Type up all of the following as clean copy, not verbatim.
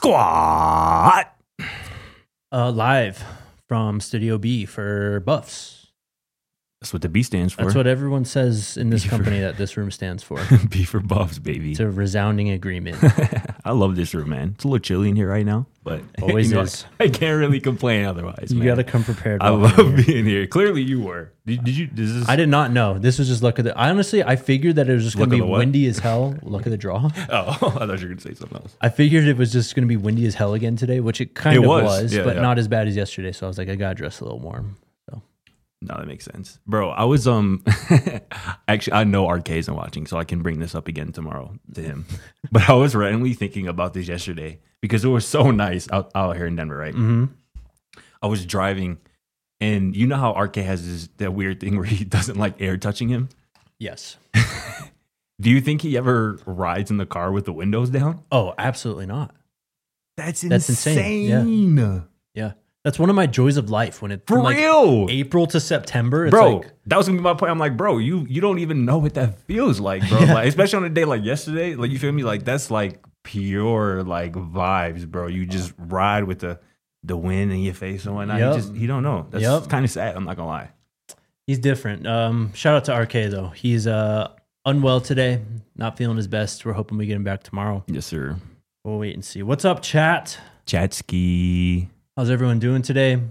Squad. Live from Studio B for Buffs. That's what the B stands for. That's what everyone says in this company that this room stands for. B for Buffs, baby. It's a resounding agreement. I love this room, man. It's a little chilly in here right now, but Always is. I can't really complain otherwise. You got to come prepared. I love being here. Clearly, you were. Did you? I did not know. This was just luck of the. Honestly, I figured that it was just going to be windy as hell. Luck of the draw. Oh, I thought you were going to say something else. I figured it was just going to be windy as hell again today, which it kind of was, yeah, but not as bad as yesterday. So I was like, I got to dress a little warm. No, that makes sense. Bro, I was, actually, I know RK isn't watching, so I can bring this up again tomorrow to him. But I was randomly thinking about this yesterday because it was so nice out here in Denver, right? Mm-hmm. I was driving, and you know how RK has that weird thing where he doesn't like air touching him? Yes. Do you think he ever rides in the car with the windows down? Oh, absolutely not. That's insane. Yeah. That's one of my joys of life when it's for real. April to September. It's bro, like, that was gonna be my point. I'm like, bro, you don't even know what that feels like, bro. Like, especially on a day like yesterday, like you feel me? Like that's like pure like vibes, bro. You just ride with the wind in your face and whatnot. You don't know. That's kind of sad. I'm not gonna lie. He's different. Shout out to RK though. He's unwell today, not feeling his best. We're hoping we get him back tomorrow. Yes, sir. We'll wait and see. What's up, chat? Chatski. How's everyone doing today?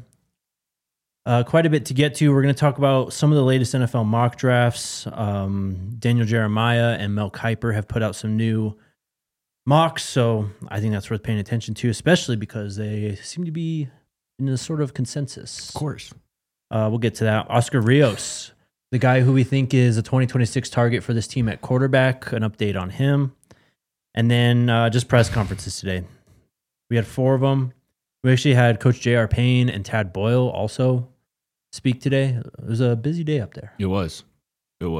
Quite a bit to get to. We're going to talk about some of the latest NFL mock drafts. Daniel Jeremiah and Mel Kiper have put out some new mocks, so I think that's worth paying attention to, especially because they seem to be in a sort of consensus. Of course. We'll get to that. Oscar Rios, the guy who we think is a 2026 target for this team at quarterback, an update on him. And then just press conferences today. We had 4 of them. We actually had Coach J.R. Payne and Tad Boyle also speak today. It was a busy day up there. It was. A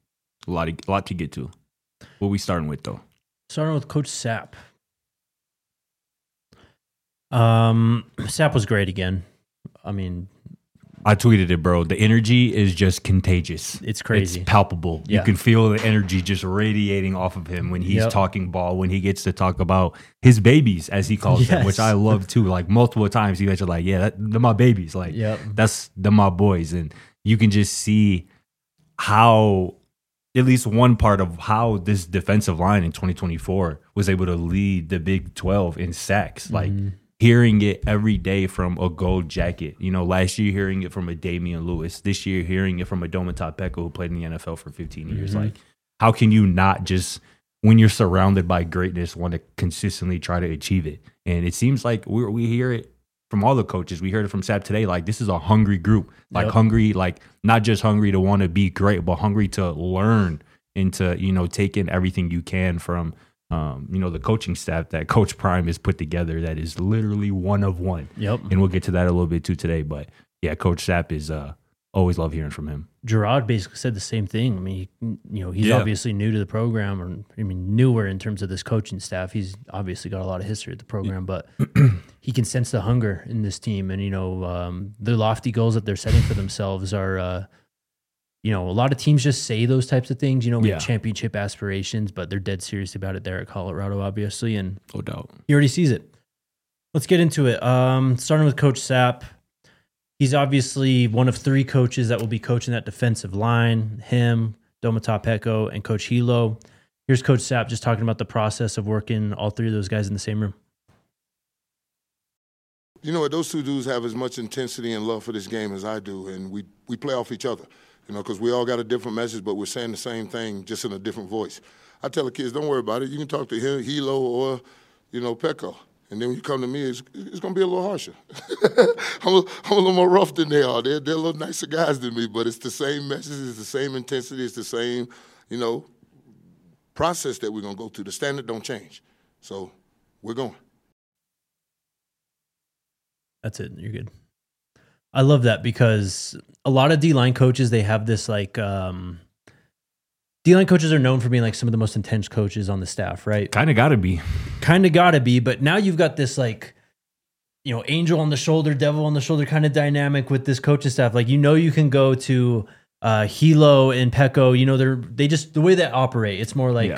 lot to get to. What are we starting with, though? Starting with Coach Sapp. Sapp was great again. I mean, I tweeted it, bro. The energy is just contagious. It's crazy. It's palpable. Yeah. You can feel the energy just radiating off of him when he's talking ball, when he gets to talk about his babies, as he calls them, which I love too. Like multiple times, you guys are like, yeah, they're my babies. Like, they're my boys. And you can just see how, at least one part of how this defensive line in 2024 was able to lead the Big 12 in sacks. Like, hearing it every day from a Gold Jacket. You know, last year hearing it from a Damian Lewis. This year hearing it from a Domata Peko who played in the NFL for 15 years. Like, how can you not just, when you're surrounded by greatness, want to consistently try to achieve it? And it seems like we hear it from all the coaches. We heard it from Sapp today. Like, this is a hungry group. Like, hungry, like, not just hungry to want to be great, but hungry to learn and to, you know, take in everything you can from you know, the coaching staff that Coach Prime has put together that is literally one of one. And we'll get to that a little bit too today. But yeah, Coach Sapp is always love hearing from him. Gerard basically said the same thing. I mean, he's obviously new to the program, or I mean, newer in terms of this coaching staff. He's obviously got a lot of history at the program, but he can sense the hunger in this team. And, you know, the lofty goals that they're setting for themselves are, you know, a lot of teams just say those types of things. You know, we have championship aspirations, but they're dead serious about it there at Colorado, obviously. And no doubt, he already sees it. Let's get into it. Starting with Coach Sapp. He's obviously one of 3 coaches that will be coaching that defensive line. Him, Domata Peko, and Coach Hilo. Here's Coach Sapp just talking about the process of working all 3 of those guys in the same room. You know what? Those 2 dudes have as much intensity and love for this game as I do, and we play off each other. You know, because we all got a different message, but we're saying the same thing, just in a different voice. I tell the kids, don't worry about it. You can talk to him, Hilo, or, you know, Peko. And then when you come to me, it's going to be a little harsher. I'm a little more rough than they are. They're a little nicer guys than me, but it's the same message, it's the same intensity, it's the same, you know, process that we're going to go through. The standard don't change. So we're going. That's it. You're good. I love that because a lot of D-line coaches, they have this like, D-line coaches are known for being like some of the most intense coaches on the staff, right? Kind of got to be. But now you've got this like, you know, angel on the shoulder, devil on the shoulder kind of dynamic with this coaching staff. Like, you know, you can go to Hilo and Peko, you know, they just, the way they operate, it's more like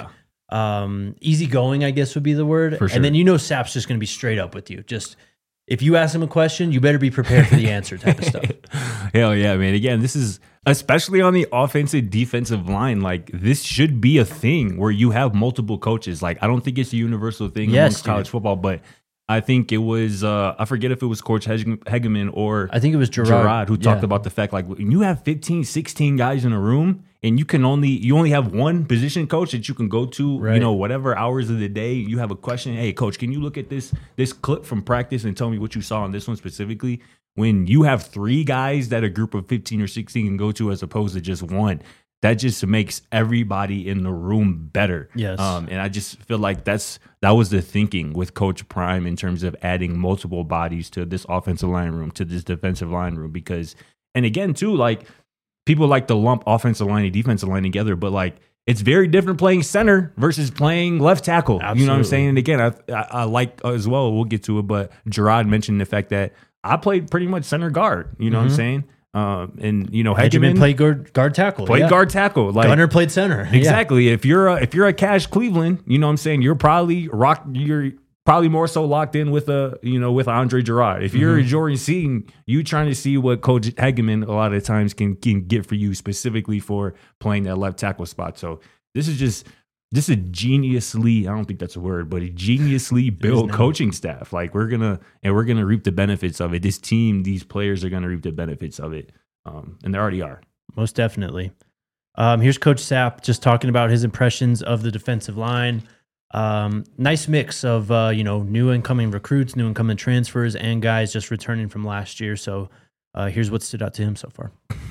easygoing, I guess would be the word. For sure. And then Sapp's just going to be straight up with you. Just if you ask him a question, you better be prepared for the answer type of stuff. Hell yeah, man. Again, this is especially on the offensive defensive line. Like this should be a thing where you have multiple coaches. Like I don't think it's a universal thing amongst college football, but I think it was, I forget if it was Coach Hegeman or I think it was Gerard who talked about the fact like when you have 15, 16 guys in a room and you only have one position coach that you can go to, whatever hours of the day you have a question. Hey, coach, can you look at this clip from practice and tell me what you saw on this one specifically? When you have 3 guys that a group of 15 or 16 can go to as opposed to just one, that just makes everybody in the room better. Yes. And I just feel like that was the thinking with Coach Prime in terms of adding multiple bodies to this offensive line room, to this defensive line room. Because, and again, too, like people like to lump offensive line and defensive line together, but like it's very different playing center versus playing left tackle. Absolutely. You know what I'm saying? And again, I like as well, we'll get to it, but Gerard mentioned the fact that I played pretty much center guard. You know what I'm saying? And Hegeman played guard tackle. Guard tackle. Like Gunner played center. Exactly. Yeah. If you're a Cash Cleveland, you know what I'm saying, you're probably more so locked in with with Andre Gerard. If you're a Jordan Seaton, you trying to see what Coach Hegeman a lot of times can get for you specifically for playing that left tackle spot. So this is a geniusly, I don't think that's a word, but a geniusly built coaching staff. Like we're gonna reap the benefits of it. This team, these players are gonna reap the benefits of it, and they already are. Most definitely. Here's Coach Sapp just talking about his impressions of the defensive line. Nice mix of new incoming recruits, new incoming transfers, and guys just returning from last year. So here's what stood out to him so far.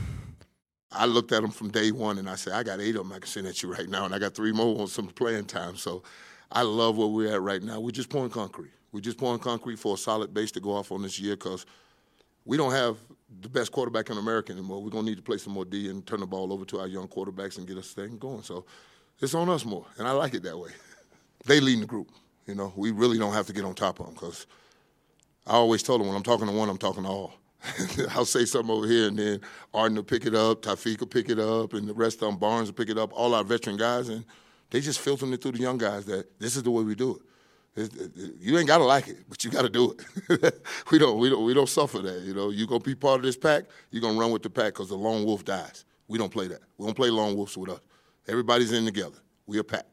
I looked at them from day one, and I said, I got 8 of them I can send at you right now, and I got 3 more on some playing time. So I love where we're at right now. We're just pouring concrete. We're just pouring concrete for a solid base to go off on this year because we don't have the best quarterback in America anymore. We're going to need to play some more D and turn the ball over to our young quarterbacks and get us thing going. So it's on us more, and I like it that way. They lead the group. We really don't have to get on top of them because I always told them when I'm talking to one, I'm talking to all. I'll say something over here, and then Arden will pick it up, Tafiq will pick it up, and the rest of them, Barnes will pick it up, all our veteran guys, and they just filtering it through the young guys that this is the way we do it. You ain't got to like it, but you got to do it. We don't suffer that. You're going to be part of this pack, you're going to run with the pack because the lone wolf dies. We don't play that. We don't play lone wolves with us. Everybody's in together. We a pack.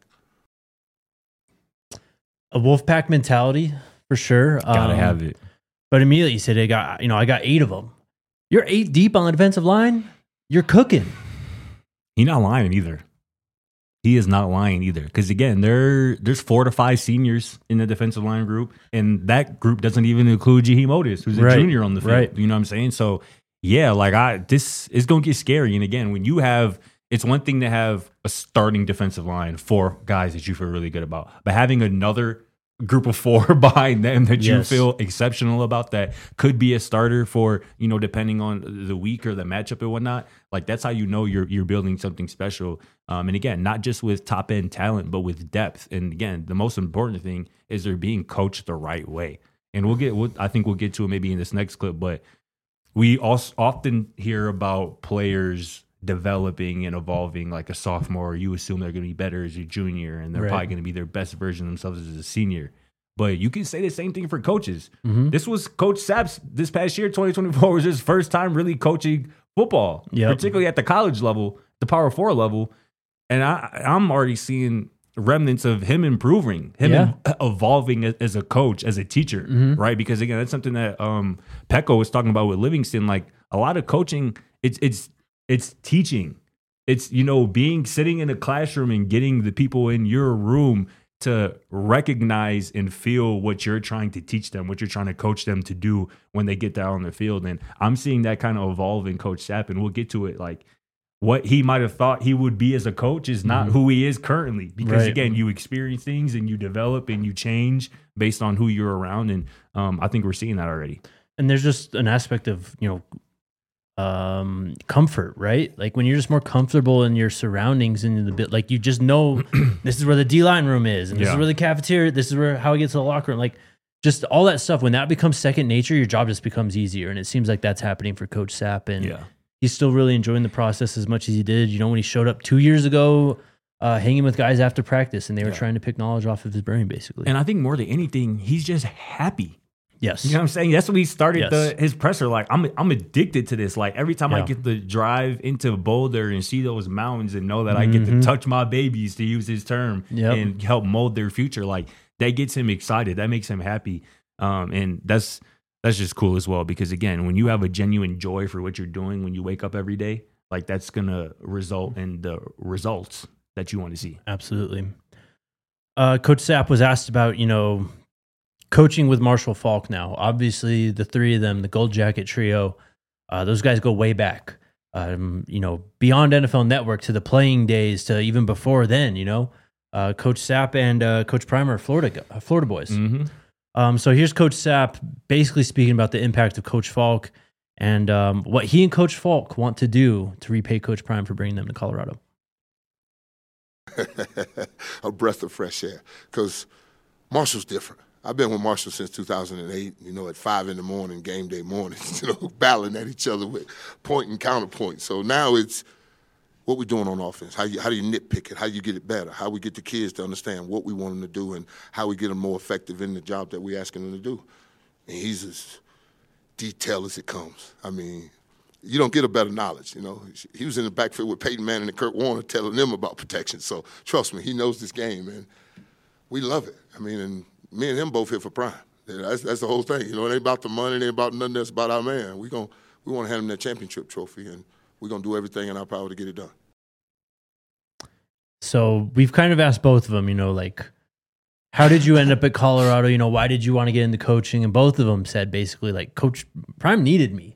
A wolf pack mentality, for sure. Gotta have it. But immediately you said, I got 8 of them. You're 8 deep on the defensive line. You're cooking. He's not lying either. He is not lying either. Because again, there's 4 to 5 seniors in the defensive line group, and that group doesn't even include Jaheim Otis, who's a junior on the field. Right. You know what I'm saying? So yeah, like this is gonna get scary. And again, when you have, it's one thing to have a starting defensive line, 4 guys that you feel really good about, but having another group of 4 behind them that you feel exceptional about, that could be a starter for, depending on the week or the matchup and whatnot. Like that's how you're building something special. And again, not just with top end talent, but with depth. And again, the most important thing is they're being coached the right way. And I think we'll get to it maybe in this next clip, but we also often hear about players developing and evolving like a sophomore. You assume they're going to be better as a junior, and they're probably going to be their best version of themselves as a senior. But you can say the same thing for coaches. This was Coach Sapp's this past year, 2024, was his first time really coaching football, particularly at the college level, the Power 4 level. And I'm already seeing remnants of him improving, evolving as a coach, as a teacher, right? Because again, that's something that Pecco was talking about with Livingston. Like a lot of coaching, it's teaching. It's, sitting in a classroom and getting the people in your room to recognize and feel what you're trying to teach them, what you're trying to coach them to do when they get down on the field. And I'm seeing that kind of evolve in Coach Sapp, and we'll get to it. Like what he might have thought he would be as a coach is not who he is currently. Because again, you experience things and you develop and you change based on who you're around. And I think we're seeing that already. And there's just an aspect of, comfort, right? Like when you're just more comfortable in your surroundings and in the bit, like you just know this is where the D-line room is, and this is where the cafeteria, this is how I get to the locker room. Like just all that stuff, when that becomes second nature, your job just becomes easier. And it seems like that's happening for Coach Sapp. And he's still really enjoying the process as much as he did. When he showed up 2 years ago, hanging with guys after practice, and they were trying to pick knowledge off of his brain, basically. And I think more than anything, he's just happy. Yes. You know what I'm saying? That's what he started his presser. Like, I'm addicted to this. Like, every time I get to drive into Boulder and see those mountains and know that I get to touch my babies, to use his term, and help mold their future, like, that gets him excited. That makes him happy. And that's just cool as well, because, again, when you have a genuine joy for what you're doing when you wake up every day, like, that's going to result in the results that you want to see. Absolutely. Coach Sapp was asked about, coaching with Marshall Faulk now. Obviously, the three of them, the Gold Jacket trio, those guys go way back, beyond NFL Network to the playing days to even before then, Coach Sapp and Coach Prime are Florida boys. Mm-hmm. So here's Coach Sapp basically speaking about the impact of Coach Faulk and what he and Coach Faulk want to do to repay Coach Prime for bringing them to Colorado. A breath of fresh air, because Marshall's different. I've been with Marshall since 2008, at 5 in the morning, game day mornings, battling at each other with point and counterpoint. So now it's what we're doing on offense. How do you nitpick it? How you get it better? How we get the kids to understand what we want them to do and how we get them more effective in the job that we're asking them to do. And he's as detailed as it comes. I mean, you don't get a better knowledge, He was in the backfield with Peyton Manning and Kurt Warner telling them about protection. So trust me, he knows this game, and we love it. I mean, and me and him both here for Prime. That's the whole thing. It ain't about the money. It ain't about nothing else. About our man. We want to hand him that championship trophy, and we're going to do everything in our power to get it done. So we've kind of asked both of them, how did you end up at Colorado? Why did you want to get into coaching? And both of them said basically, like, Coach Prime needed me.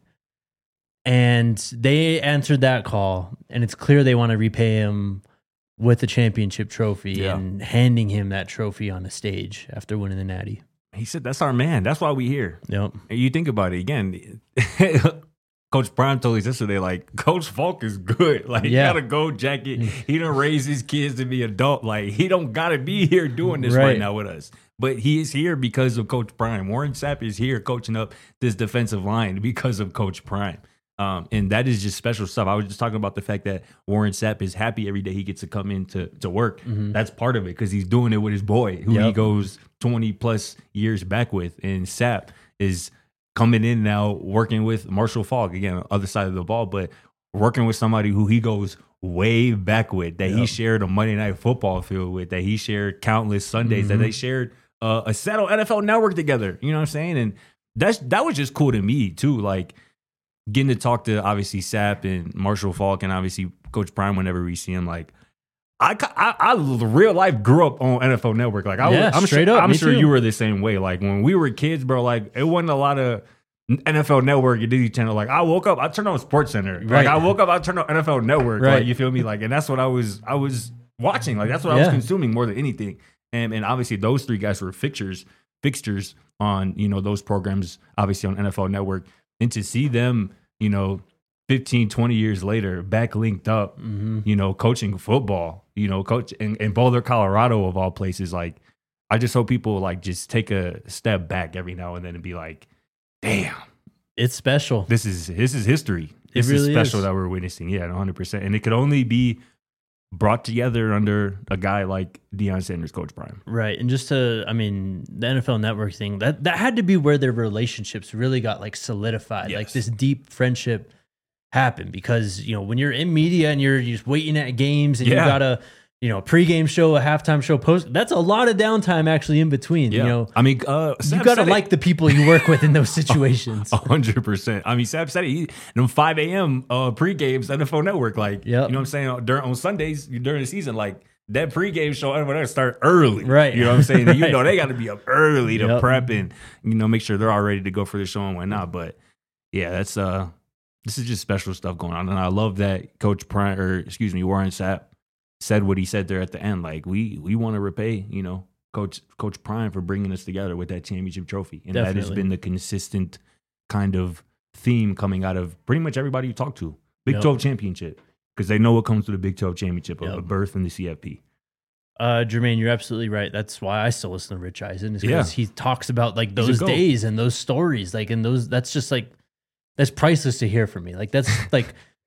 And they answered that call, and it's clear they want to repay him with the championship trophy and handing him that trophy on a stage after winning the Natty. He said, that's our man. That's why we here. Yep. And you think about it, again, Coach Prime told us yesterday, like, Coach Faulk is good. Like, he got a gold jacket. He done raised his kids to be adult. Like, he don't got to be here doing this right now with us. But he is here because of Coach Prime. Warren Sapp is here coaching up this defensive line because of Coach Prime. And that is just special stuff. I was just talking about the fact that Warren Sapp is happy every day he gets to come in to work. Mm-hmm. That's part of it, because he's doing it with his boy, who he goes 20 plus years back with. And Sapp is coming in now working with Marshall Faulk, again, other side of the ball, but working with somebody who he goes way back with, that he shared a Monday Night Football field with, that he shared countless Sundays, that they shared a set on NFL Network together. You know what I'm saying? And that was just cool to me too. Like, getting to talk to, obviously, Sapp and Marshall Faulk and obviously Coach Prime whenever we see him. Like, I real life grew up on NFL Network. Like, I'm sure you were the same way. Like, when we were kids, bro, like, it wasn't a lot of NFL Network and Disney Channel. Like, I woke up, I turned on SportsCenter. Like, I woke up, I turned on NFL Network. Right. Like, you feel me? Like, and that's what I was watching. Like, that's what I was consuming more than anything. And obviously those three guys were fixtures on, those programs, obviously on NFL Network. And to see them, 15, 20 years later, back linked up, coaching football, coach in Boulder, Colorado, of all places. Like, I just hope people, like, just take a step back every now and then and be like, damn, it's special. This is history. This really is special that we're witnessing. Yeah, 100%. And it could only be brought together under a guy like Deion Sanders, Coach Prime. Right. And just the NFL Network thing, that had to be where their relationships really got, like, solidified. Yes. Like, this deep friendship happened because, when you're in media and you're just waiting at games and you got a, pregame show, a halftime show, post, that's a lot of downtime actually in between. Yeah. I mean, you got to like the people you work with in those situations. 100%. I mean, Sapp said it. 5 a.m. Pre-games, NFL Network. Like, you know what I'm saying? On Sundays during the season, like, that pregame show, NFL start early. Right. You know what I'm saying? Right. They got to be up early to prep and, make sure they're all ready to go for the show and whatnot. But, yeah, that's this is just special stuff going on. And I love that Coach Prime, Warren Sapp said what he said there at the end. Like, we want to repay, Coach Prime for bringing us together with that championship trophy. And Definitely. That has been the consistent kind of theme coming out of pretty much everybody you talk to. Big 12 championship, because they know what comes to the Big 12 championship, a berth in the CFP. Jermaine, you're absolutely right. That's why I still listen to Rich Eisen, is because he talks about, like, those days and those stories, like, and those, that's just, like, that's priceless to hear from me. Like, that's like,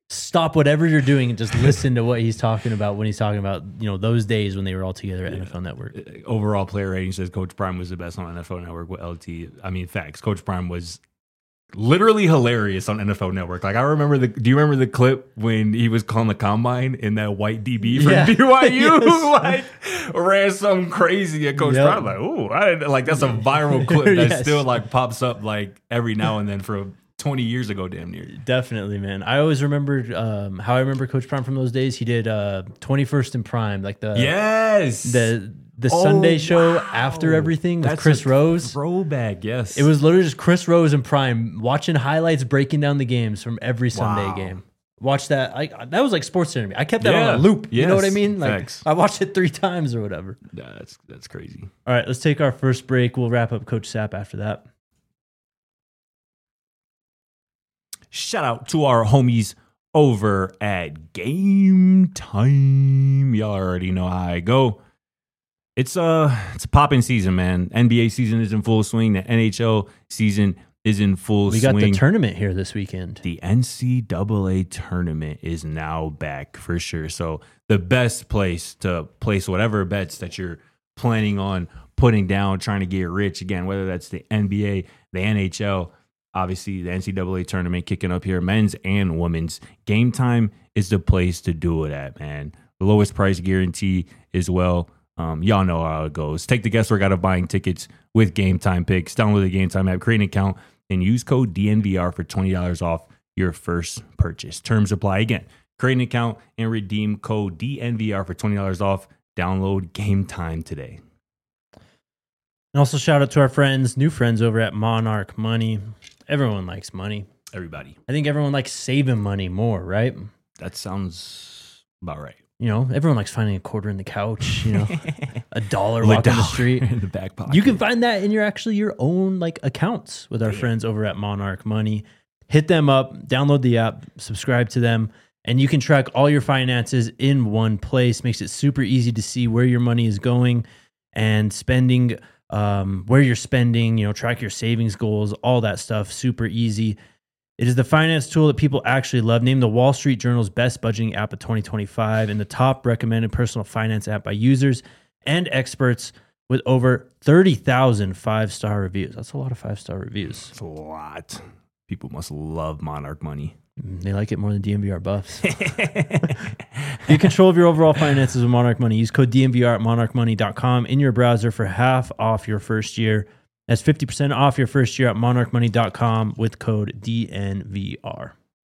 stop whatever you're doing and just listen to what he's talking about when he's talking about, those days when they were all together at NFL Network. Overall player rating says Coach Prime was the best on NFL Network with LT. I mean, facts. Coach Prime was literally hilarious on NFL Network. Like, I remember do you remember the clip when he was calling the combine and that white DB from BYU like ran something crazy at Coach Prime? Like, ooh, that's a viral clip that still like pops up like every now and then for 20 years ago, damn near. Definitely, man. I always remembered how I remember Coach Prime from those days. He did 21st and Prime, like the Sunday show after everything with Chris Rose. Throwback, yes. It was literally just Chris Rose and Prime watching highlights, breaking down the games from every Sunday game. Watch that. That was like Sports Center. I kept that on a loop. Yes. You know what I mean? Like Facts. I watched it 3 times or whatever. That's crazy. All right, let's take our first break. We'll wrap up Coach Sapp after that. Shout out to our homies over at Game Time. Y'all already know how I go. It's a popping season, man. NBA season is in full swing. The NHL season is in full swing. We got the tournament here this weekend. The NCAA tournament is now back for sure. So the best place to place whatever bets that you're planning on putting down, trying to get rich, again, whether that's the NBA, the NHL, obviously, the NCAA tournament kicking up here, men's and women's. Game Time is the place to do it at, man. The lowest price guarantee as well. Y'all know how it goes. Take the guesswork out of buying tickets with Game Time picks. Download the Game Time app, create an account, and use code DNVR for $20 off your first purchase. Terms apply. Again, create an account and redeem code DNVR for $20 off. Download Game Time today. And also shout out to our new friends over at Monarch Money. Everyone likes money. Everybody. I think everyone likes saving money more, right? That sounds about right. Everyone likes finding a quarter in the couch, $1 walking the street. In the back pocket. You can find that in your own accounts with our friends over at Monarch Money. Hit them up, download the app, subscribe to them, and you can track all your finances in one place. Makes it super easy to see where your money is going and spending, where you're spending, track your savings goals, all that stuff, super easy. It is the finance tool that people actually love. Named the Wall Street Journal's best budgeting app of 2025 and the top recommended personal finance app by users and experts with over 30,000 5-star reviews. That's a lot of 5-star reviews. That's a lot. People must love Monarch Money. They like it more than DNVR buffs. Get control of your overall finances with Monarch Money. Use code DNVR at monarchmoney.com in your browser for half off your first year. That's 50% off your first year at monarchmoney.com with code DNVR.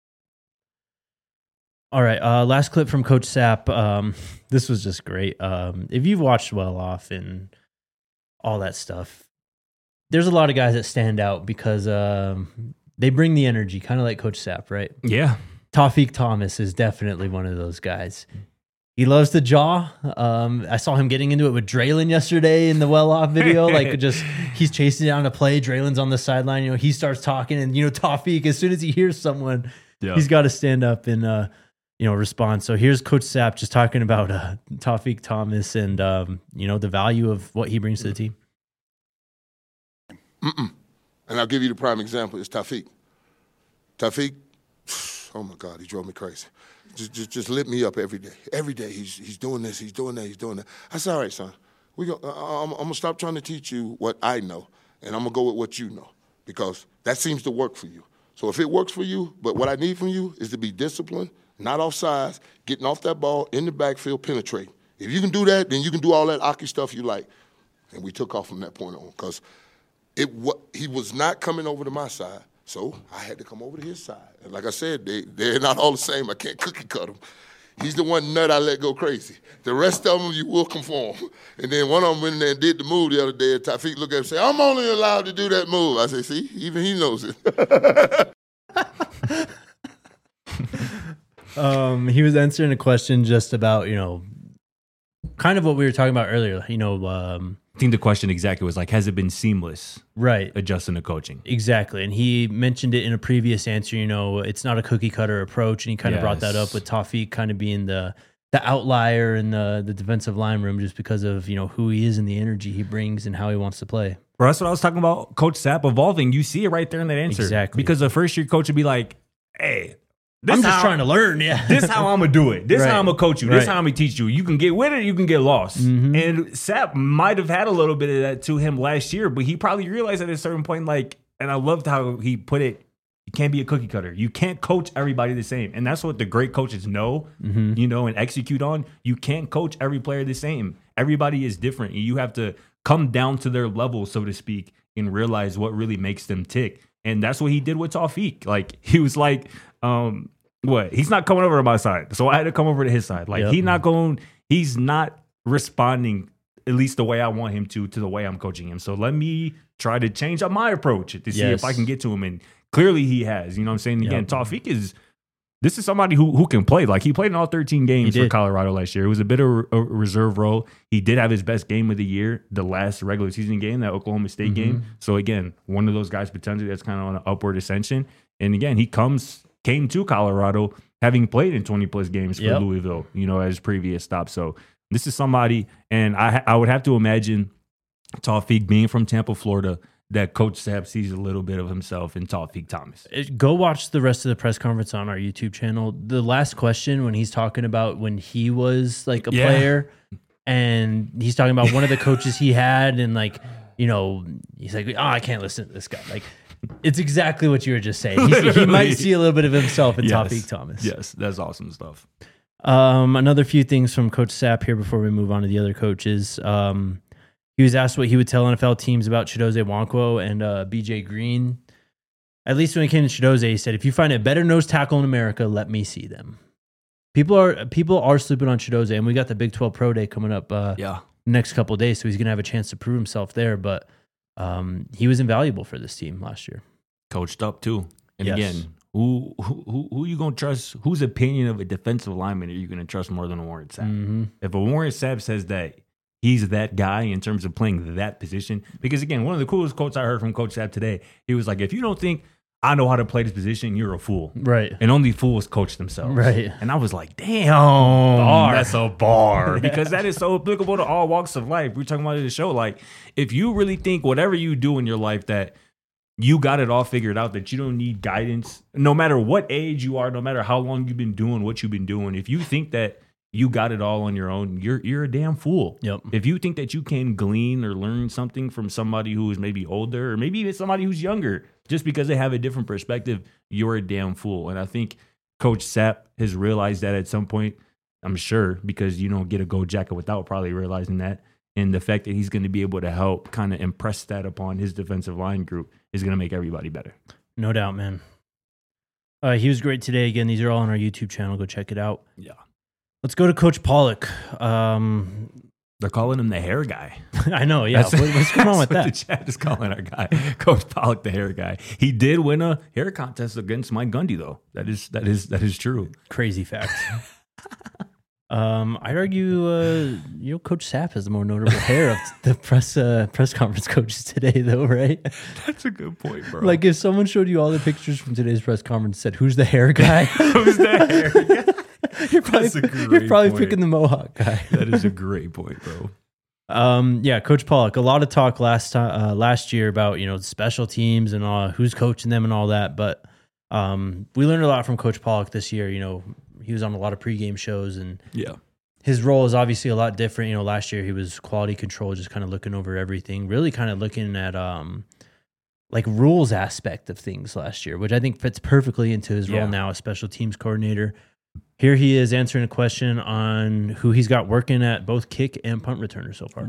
All right, last clip from Coach Sapp. This was just great. If you've watched Well Off and all that stuff, there's a lot of guys that stand out because they bring the energy, kind of like Coach Sapp, right? Yeah. Tawfiq Thomas is definitely one of those guys. He loves to jaw. I saw him getting into it with Draylon yesterday in the Well Off video. He's chasing down a play. Draylon's on the sideline. He starts talking, and Tawfiq, as soon as he hears someone, he's got to stand up and respond. So here's Coach Sapp just talking about Tawfiq Thomas and the value of what he brings to the team. And I'll give you the prime example. It's Tawfiq. Tawfiq, oh my God, he drove me crazy. Just lit me up every day. Every day he's doing this, he's doing that, he's doing that. I said, all right, son, I'm going to stop trying to teach you what I know, and I'm going to go with what you know, because that seems to work for you. So if it works for you, but what I need from you is to be disciplined, not off sides, getting off that ball, in the backfield, penetrating. If you can do that, then you can do all that Aki stuff you like. And we took off from that point on, because he was not coming over to my side. So I had to come over to his side. And like I said, they're not all the same. I can't cookie cut them. He's the one nut I let go crazy. The rest of them, you will conform. And then one of them went in there and did the move the other day. And Tawfiq looked at him and said, I'm only allowed to do that move. I said, see, even he knows it. He was answering a question just about, kind of what we were talking about earlier, I think the question exactly was has it been seamless? Right. Adjusting to coaching. Exactly. And he mentioned it in a previous answer, it's not a cookie cutter approach. And he kind of brought that up with Tawfiq kind of being the outlier in the defensive line room just because of, who he is and the energy he brings and how he wants to play. Well, that's what I was talking about, Coach Sapp evolving. You see it right there in that answer. Exactly. Because the first year coach would be like, hey, I'm just trying to learn. Yeah. This is how I'm going to do it. This is how I'm going to coach you. This is how I'm going to teach you. You can get with it, you can get lost. Mm-hmm. And Sapp might have had a little bit of that to him last year, but he probably realized at a certain point, like, and I loved how he put it, you can't be a cookie cutter. You can't coach everybody the same. And that's what the great coaches know, you know, and execute on. You can't coach every player the same. Everybody is different. And you have to come down to their level, so to speak, and realize what really makes them tick. And that's what he did with Tawfiq. Like, he was like, he's not coming over to my side. So I had to come over to his side. Like, he's not responding, at least the way I want him to the way I'm coaching him. So let me try to change up my approach to see if I can get to him. And clearly he has, you know what I'm saying? Again, Tawfiq this is somebody who can play. Like, he played in all 13 games for Colorado last year. It was a bit of a reserve role. He did have his best game of the year, the last regular season game, that Oklahoma State game. So again, one of those guys potentially that's kind of on an upward ascension. And again, he came to Colorado having played in 20 plus games for Louisville, you know, as previous stop. So this is somebody, and I would have to imagine Tawfiq being from Tampa, Florida, that Coach Sapp sees a little bit of himself in Tawfiq Thomas. Go watch the rest of the press conference on our YouTube channel. The last question, when he's talking about when he was like a player, and he's talking about one of the coaches he had, and like, you know, he's like, I can't listen to this guy. Like, it's exactly what you were just saying. He might see a little bit of himself in Tawfiq Thomas. Yes, that's awesome stuff. Another few things from Coach Sapp here before we move on to the other coaches. He was asked what he would tell NFL teams about Chidozie Nwankwo and BJ Green. At least when it came to Chidozie, he said, if you find a better nose tackle in America, let me see them. People are sleeping on Chidozie, and we got the Big 12 Pro Day coming up next couple of days, so he's going to have a chance to prove himself there. But he was invaluable for this team last year. Coached up, too. And again, who you going to trust? Whose opinion of a defensive lineman are you going to trust more than a Warren Sapp? If a Warren Sapp says that he's that guy in terms of playing that position. Because, again, one of the coolest quotes I heard from Coach Sapp today, he was like, if you don't think I know how to play this position, you're a fool. Right. And only fools coach themselves. Right. And I was like, damn, that's a bar. Because that is so applicable to all walks of life. We're talking about it in the show. Like, if you really think whatever you do in your life that you got it all figured out, that you don't need guidance, no matter what age you are, no matter how long you've been doing what you've been doing, if you think that you got it all on your own, you're a damn fool. Yep. If you think that you can glean or learn something from somebody who is maybe older or maybe even somebody who's younger, just because they have a different perspective, you're a damn fool. And I think Coach Sapp has realized that at some point, I'm sure, because you don't get a gold jacket without probably realizing that. And the fact that he's going to be able to help kind of impress that upon his defensive line group is going to make everybody better. No doubt, man. He was great today. Again, these are all on our YouTube channel. Go check it out. Yeah. Let's go to Coach Pollock. They're calling him the hair guy. I know, yeah. What's going on with that? The chat is calling our guy, Coach Pollock, the hair guy. He did win a hair contest against Mike Gundy, though. That is true. Crazy fact. I'd argue, Coach Sapp has the more notable hair of the press conference coaches today, though, right? That's a good point, bro. Like, if someone showed you all the pictures from today's press conference and said, "Who's the hair guy?" Who's the hair guy? You're probably picking the Mohawk guy. That is a great point, bro. Coach Pollock. A lot of talk last year about special teams and who's coaching them and all that. But we learned a lot from Coach Pollock this year. He was on a lot of pregame shows, and his role is obviously a lot different. Last year he was quality control, just kind of looking over everything, really kind of looking at like rules aspect of things last year, which I think fits perfectly into his role now as special teams coordinator. Here he is answering a question on who he's got working at both kick and punt returner so far.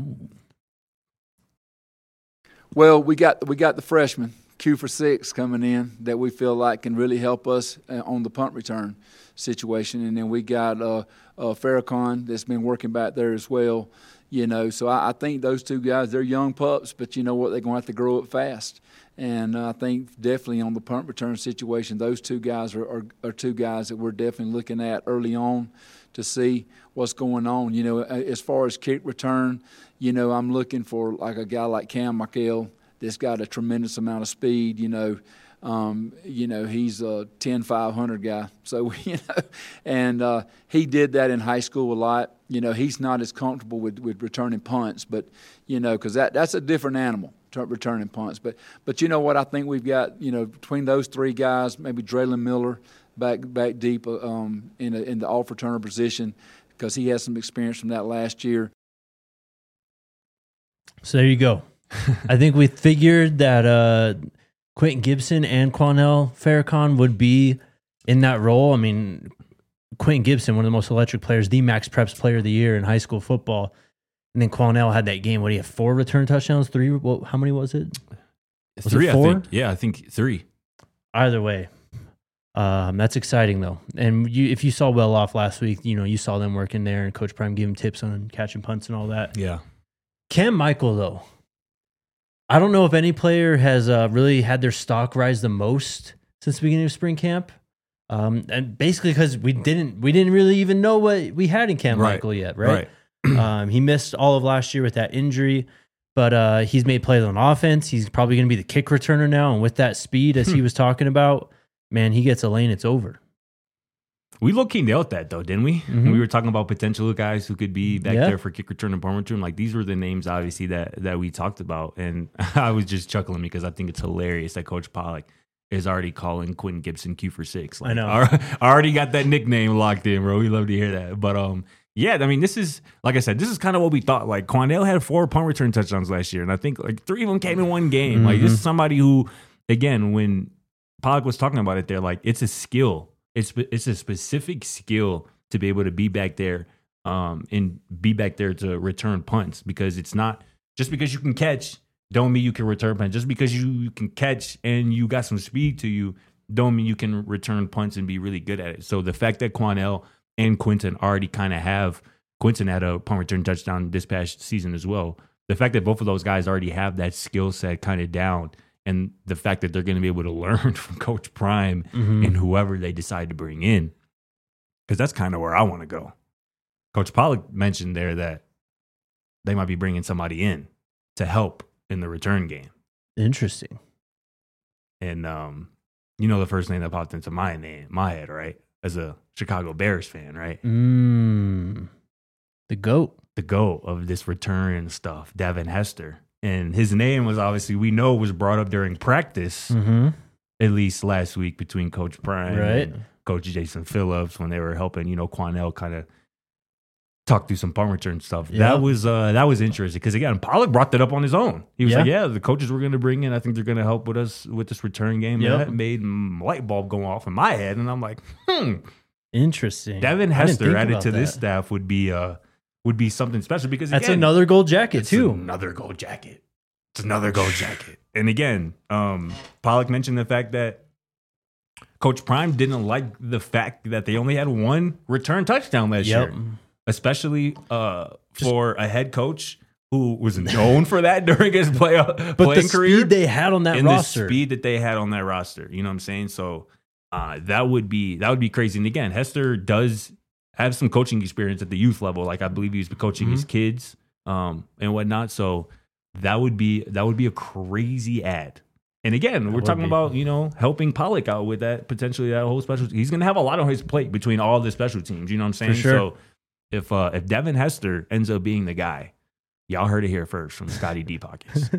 Well, we got the freshman Q for 6 coming in that we feel like can really help us on the punt return situation, and then we got Farrakhan that's been working back there as well. So I think those two guys, they're young pups, but you know what, they're going to have to grow up fast. And I think definitely on the punt return situation, those two guys are two guys that we're definitely looking at early on to see what's going on. As far as kick return, I'm looking for like a guy like Cam Michael that's got a tremendous amount of speed. He's a 10-500 guy. So, and he did that in high school a lot. He's not as comfortable with returning punts, but, because that's a different animal. Returning punts, but you know what? I think we've got between those three guys, maybe Draylon Miller, back deep in the off returner position because he has some experience from that last year. So there you go. I think we figured that Quentin Gibson and Quanell Farrakhan would be in that role. I mean, Quentin Gibson, one of the most electric players, the Max Preps Player of the Year in high school football. And then Quanell had that game. What do you have? 4 return touchdowns? 3? Well, how many was it? Was 3, it 4? I think. Yeah, I think 3. Either way, that's exciting though. And if you saw Well Off last week, you saw them working there, and Coach Prime gave him tips on catching punts and all that. Yeah. Cam Michael though, I don't know if any player has really had their stock rise the most since the beginning of spring camp. And basically because we didn't really even know what we had in Cam Michael yet, right? He missed all of last year with that injury, but he's made plays on offense. He's probably going to be the kick returner now, and with that speed, as he was talking about, man, he gets a lane, it's over. We low-key nailed that, though, didn't we? Mm-hmm. We were talking about potential guys who could be back there for kick return and punt return. Like, these were the names, obviously, that we talked about. And I was just chuckling because I think it's hilarious that Coach Pollock is already calling Quentin Gibson Q for 6. Like, I know. I already got that nickname locked in, bro. We love to hear that. But, yeah, I mean, this is, like I said, this is kind of what we thought. Like, Quanell had 4 punt return touchdowns last year, and I think, 3 of them came in one game. Mm-hmm. Like, this is somebody who, again, when Pollock was talking about it there, like, it's a skill. It's a specific skill to be able to be back there and be back there to return punts, because it's not just because you can catch don't mean you can return punts. Just because you can catch and you got some speed to you don't mean you can return punts and be really good at it. So the fact that Quanell and Quentin already kind of have, Quentin had a punt return touchdown this past season as well. The fact that both of those guys already have that skill set kind of down, and the fact that they're going to be able to learn from Coach Prime and whoever they decide to bring in, because that's kind of where I want to go. Coach Pollock mentioned there that they might be bringing somebody in to help in the return game. Interesting. And the first name that popped into my head, right? As a Chicago Bears fan, right? The GOAT. The GOAT of this return stuff, Devin Hester. And his name was obviously, we know, was brought up during practice, at least last week, between Coach Prime and Coach Jason Phillips, when they were helping, Quanell kind of talk through some punt return stuff. Yeah. That was interesting because, again, Pollock brought that up on his own. He was like, the coaches we're going to bring in, I think they're going to help with us with this return game. And that made light bulb go off in my head. And I'm like, interesting. Devin Hester added to this staff would be something special, because that's another gold jacket too. Another gold jacket. It's another gold jacket. And again, Pollock mentioned the fact that Coach Prime didn't like the fact that they only had 1 return touchdown last year, especially for a head coach who was known for that during his playing career. But the speed they had on that roster, the speed that they had on that roster, you know what I'm saying? So that would be crazy. And again, Hester does have some coaching experience at the youth level. Like, I believe he was coaching his kids and whatnot. So that would be a crazy ad. And again, we're talking about, helping Pollock out with that, potentially that whole special. He's going to have a lot on his plate between all the special teams. You know what I'm saying? For sure. So if Devin Hester ends up being the guy, y'all heard it here first from Scotty D. Pockets.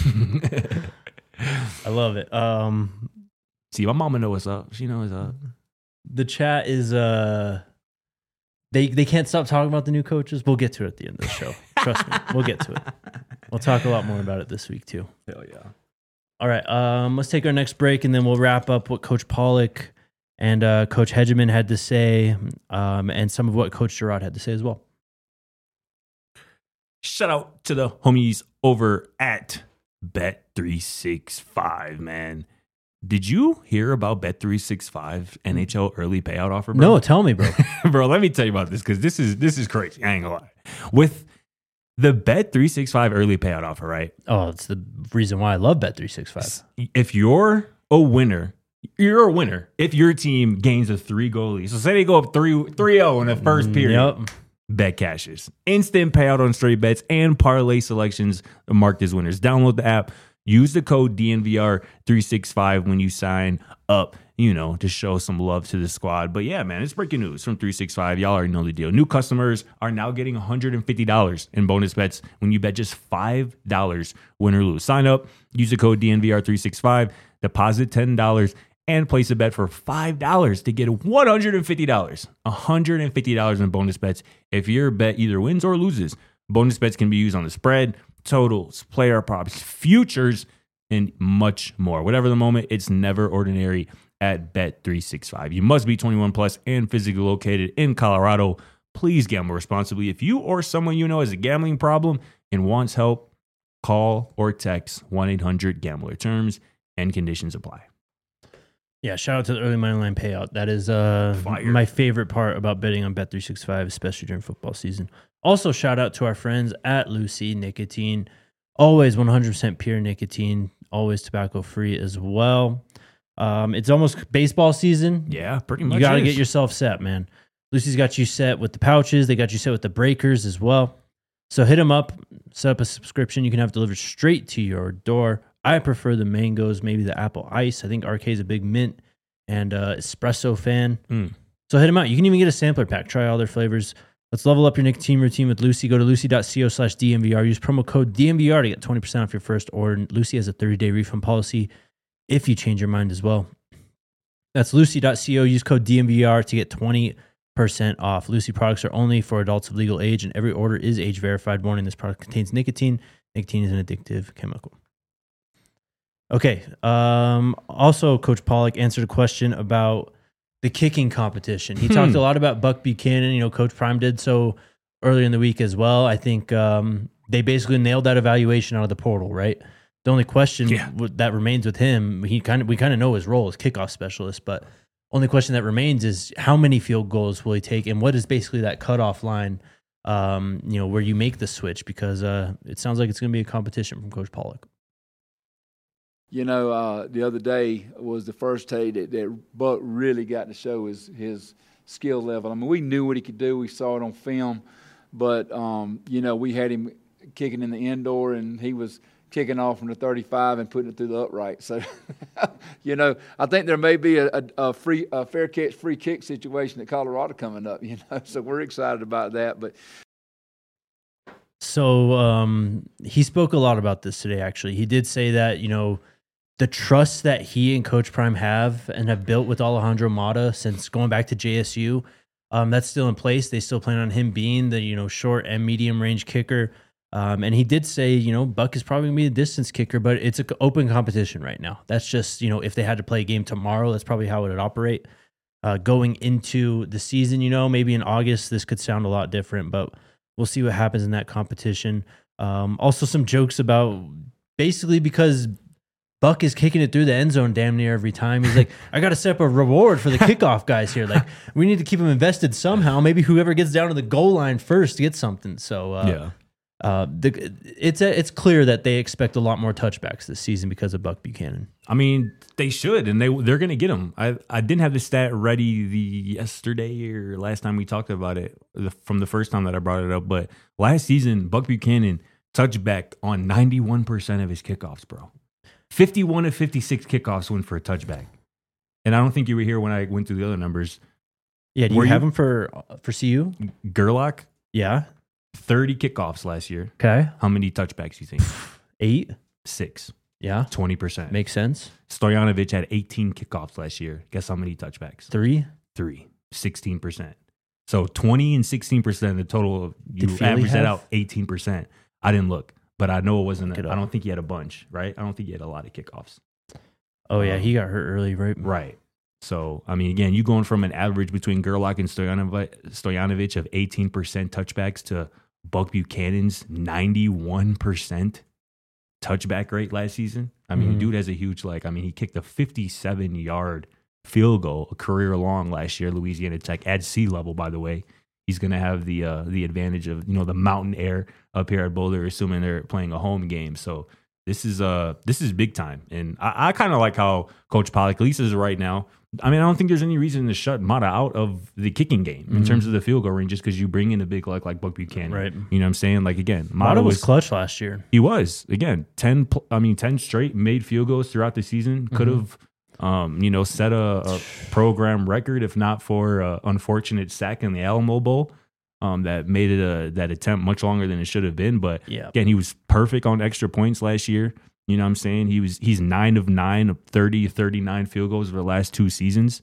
I love it. See, my mama knows what's up. She knows what's up. The chat is They can't stop talking about the new coaches. We'll get to it at the end of the show. Trust me. We'll get to it. We'll talk a lot more about it this week, too. Hell yeah. All right. Let's take our next break, and then we'll wrap up what Coach Pollock and Coach Hegeman had to say, and some of what Coach Gerard had to say as well. Shout out to the homies over at Bet365, man. Did you hear about Bet365 NHL early payout offer, bro? No, tell me, bro. Bro, let me tell you about this, because this is crazy. I ain't gonna lie. With the Bet365 early payout offer, right? Oh, it's the reason why I love Bet365. If you're a winner, you're a winner if your team gains a 3-goal lead. So say they go up 3-0 in the first period. Yep. Bet cashes. Instant payout on straight bets and parlay selections marked as winners. Download the app. Use the code DNVR365 when you sign up, to show some love to the squad. But yeah, man, it's breaking news from 365. Y'all already know the deal. New customers are now getting $150 in bonus bets when you bet just $5, win or lose. Sign up, use the code DNVR365, deposit $10, and place a bet for $5 to get $150. $150 in bonus bets if your bet either wins or loses. Bonus bets can be used on the spread, totals, player props, futures, and much more. Whatever the moment, it's never ordinary at Bet365. You must be 21 plus and physically located in Colorado. Please gamble responsibly. If you or someone you know has a gambling problem and wants help, call or text 1-800-GAMBLER. Terms and conditions apply. Yeah, shout out to the early money line payout. That is my favorite part about betting on Bet365, especially during football season. Also, shout out to our friends at Lucy Nicotine. Always 100% pure nicotine, always tobacco-free as well. It's almost baseball season. Yeah, pretty much. You got to get yourself set, man. Lucy's got you set with the pouches. They got you set with the breakers as well. So hit them up, set up a subscription. You can have it delivered straight to your door. I prefer the mangoes, maybe the apple ice. I think RK is a big mint and espresso fan. So hit them out. You can even get a sampler pack. Try all their flavors. Let's level up your nicotine routine with Lucy. Go to lucy.co/DNVR. Use promo code DNVR to get 20% off your first order. Lucy has a 30-day refund policy if you change your mind as well. That's lucy.co. Use code DNVR to get 20% off. Lucy products are only for adults of legal age, and every order is age verified. Warning: this product contains nicotine. Nicotine is an addictive chemical. Okay. Also, Coach Pollock answered a question about the kicking competition. He talked a lot about Buck Buchanan. You know, Coach Prime did so earlier in the week as well. I think they basically nailed that evaluation out of the portal, right? The only question that remains with him, we kind of know his role as kickoff specialist, but only question that remains is how many field goals will he take, and what is basically that cutoff line, where you make the switch, because it sounds like it's going to be a competition from Coach Pollock. You know, the other day was the first day that Buck really got to show his skill level. I mean, we knew what he could do. We saw it on film. But, we had him kicking in the indoor, and he was kicking off from the 35 and putting it through the upright. So, I think there may be a fair catch, free kick situation at Colorado coming up, So we're excited about that. But So he spoke a lot about this today, actually. He did say that, the trust that he and Coach Prime have built with Alejandro Mata since going back to JSU, that's still in place. They still plan on him being the, short and medium range kicker. And he did say, Buck is probably going to be the distance kicker, but it's an open competition right now. That's just, if they had to play a game tomorrow, that's probably how it would operate. Going into the season, maybe in August, this could sound a lot different, but we'll see what happens in that competition. Also some jokes about basically because Buck is kicking it through the end zone damn near every time. He's like, I got to set up a reward for the kickoff guys here. Like, we need to keep them invested somehow. Maybe whoever gets down to the goal line first gets something. So, it's clear that they expect a lot more touchbacks this season because of Buck Buchanan. I mean, they should, and they're going to get them. I didn't have the stat ready yesterday or last time we talked about it from the first time that I brought it up, but last season, Buck Buchanan touchback on 91% of his kickoffs, bro. 51 of 56 kickoffs went for a touchback. And I don't think you were here when I went through the other numbers. Yeah, do you have him for CU? Gerlach? Yeah. 30 kickoffs last year. Okay. How many touchbacks do you think? 8? 6. Yeah. 20%. Makes sense. Stojanovic had 18 kickoffs last year. Guess how many touchbacks? 3. 16%. So 20 and 16% of the total, you average that out, 18%. I didn't look, but I know it wasn't. I don't think he had a bunch, right? I don't think he had a lot of kickoffs. Oh, yeah. He got hurt early, right? Right. So, I mean, again, you going from an average between Gerlach and Stojanovic of 18% touchbacks to Buck Buchanan's 91% touchback rate last season. I mean, dude has a huge, he kicked a 57-yard field goal, a career long last year, Louisiana Tech, at sea level, by the way. He's going to have the advantage of, the mountain air up here at Boulder, assuming they're playing a home game. So this is big time. And I kind of like how Coach Pollock, at least as of right now, I mean, I don't think there's any reason to shut Mata out of the kicking game in terms of the field goal range just because you bring in a big like Buck Buchanan. Right. You know what I'm saying? Like, again, Mata was clutch last year. He was. Again, 10 straight made field goals throughout the season. Could have, set a program record if not for an unfortunate sack in the Alamo Bowl that made it that attempt much longer than it should have been. But, again, he was perfect on extra points last year. You know what I'm saying? He's 9 of 9 of 30, 39 field goals over the last 2 seasons.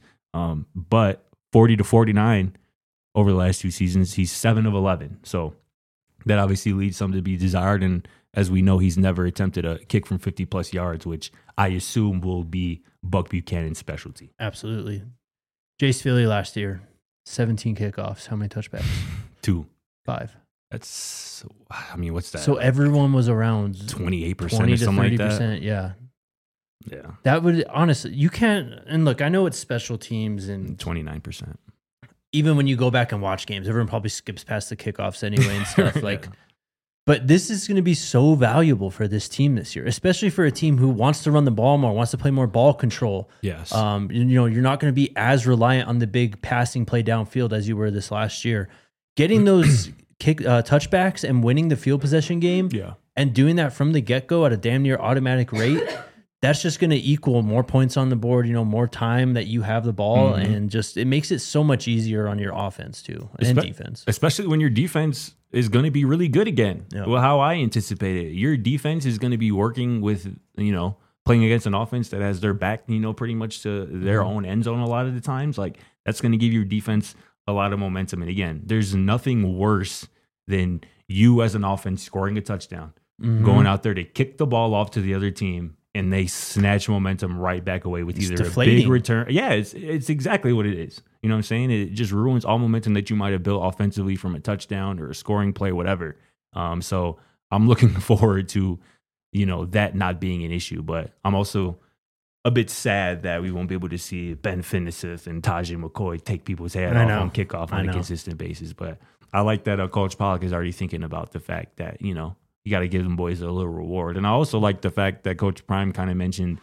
But 40 to 49 over the last 2 seasons, he's 7 of 11. So that obviously leads something to be desired. And as we know, he's never attempted a kick from 50 plus yards, which I assume will be Buck Buchanan's specialty. Absolutely. Jace Philly last year, 17 kickoffs. How many touchbacks? 2. 5. That's, I mean, what's that? So everyone was around 28% 20 or to something 30%, like that. Yeah. Yeah. That would, honestly, you can't, and look, I know it's special teams and 29%. even when you go back and watch games, everyone probably skips past the kickoffs anyway and stuff. Like, but this is going to be so valuable for this team this year, especially for a team who wants to run the ball more, wants to play more ball control. Yes. You know, you're not going to be as reliant on the big passing play downfield as you were this last year. Getting those touchbacks and winning the field possession game, and doing that from the get-go at a damn near automatic rate, that's just going to equal more points on the board, you know, more time that you have the ball, and just it makes it so much easier on your offense too, and defense. Especially when your defense is going to be really good again. Yep. Well, how I anticipate it. Your defense is going to be working with, you know, playing against an offense that has their back, you know, pretty much to their own end zone a lot of the times. Like, that's going to give your defense a lot of momentum. And again, there's nothing worse than you as an offense scoring a touchdown, going out there to kick the ball off to the other team, and they snatch momentum right back away with either a big return. Yeah, it's exactly what it is. You know what I'm saying? It just ruins all momentum that you might have built offensively from a touchdown or a scoring play, whatever. So I'm looking forward to, you know, that not being an issue. But I'm also a bit sad that we won't be able to see Ben Finneseth and Tajay McCoy take people's head off on kickoff on a consistent basis. But I like that Coach Pollock is already thinking about the fact that, you know, you got to give them boys a little reward. And I also like the fact that Coach Prime kind of mentioned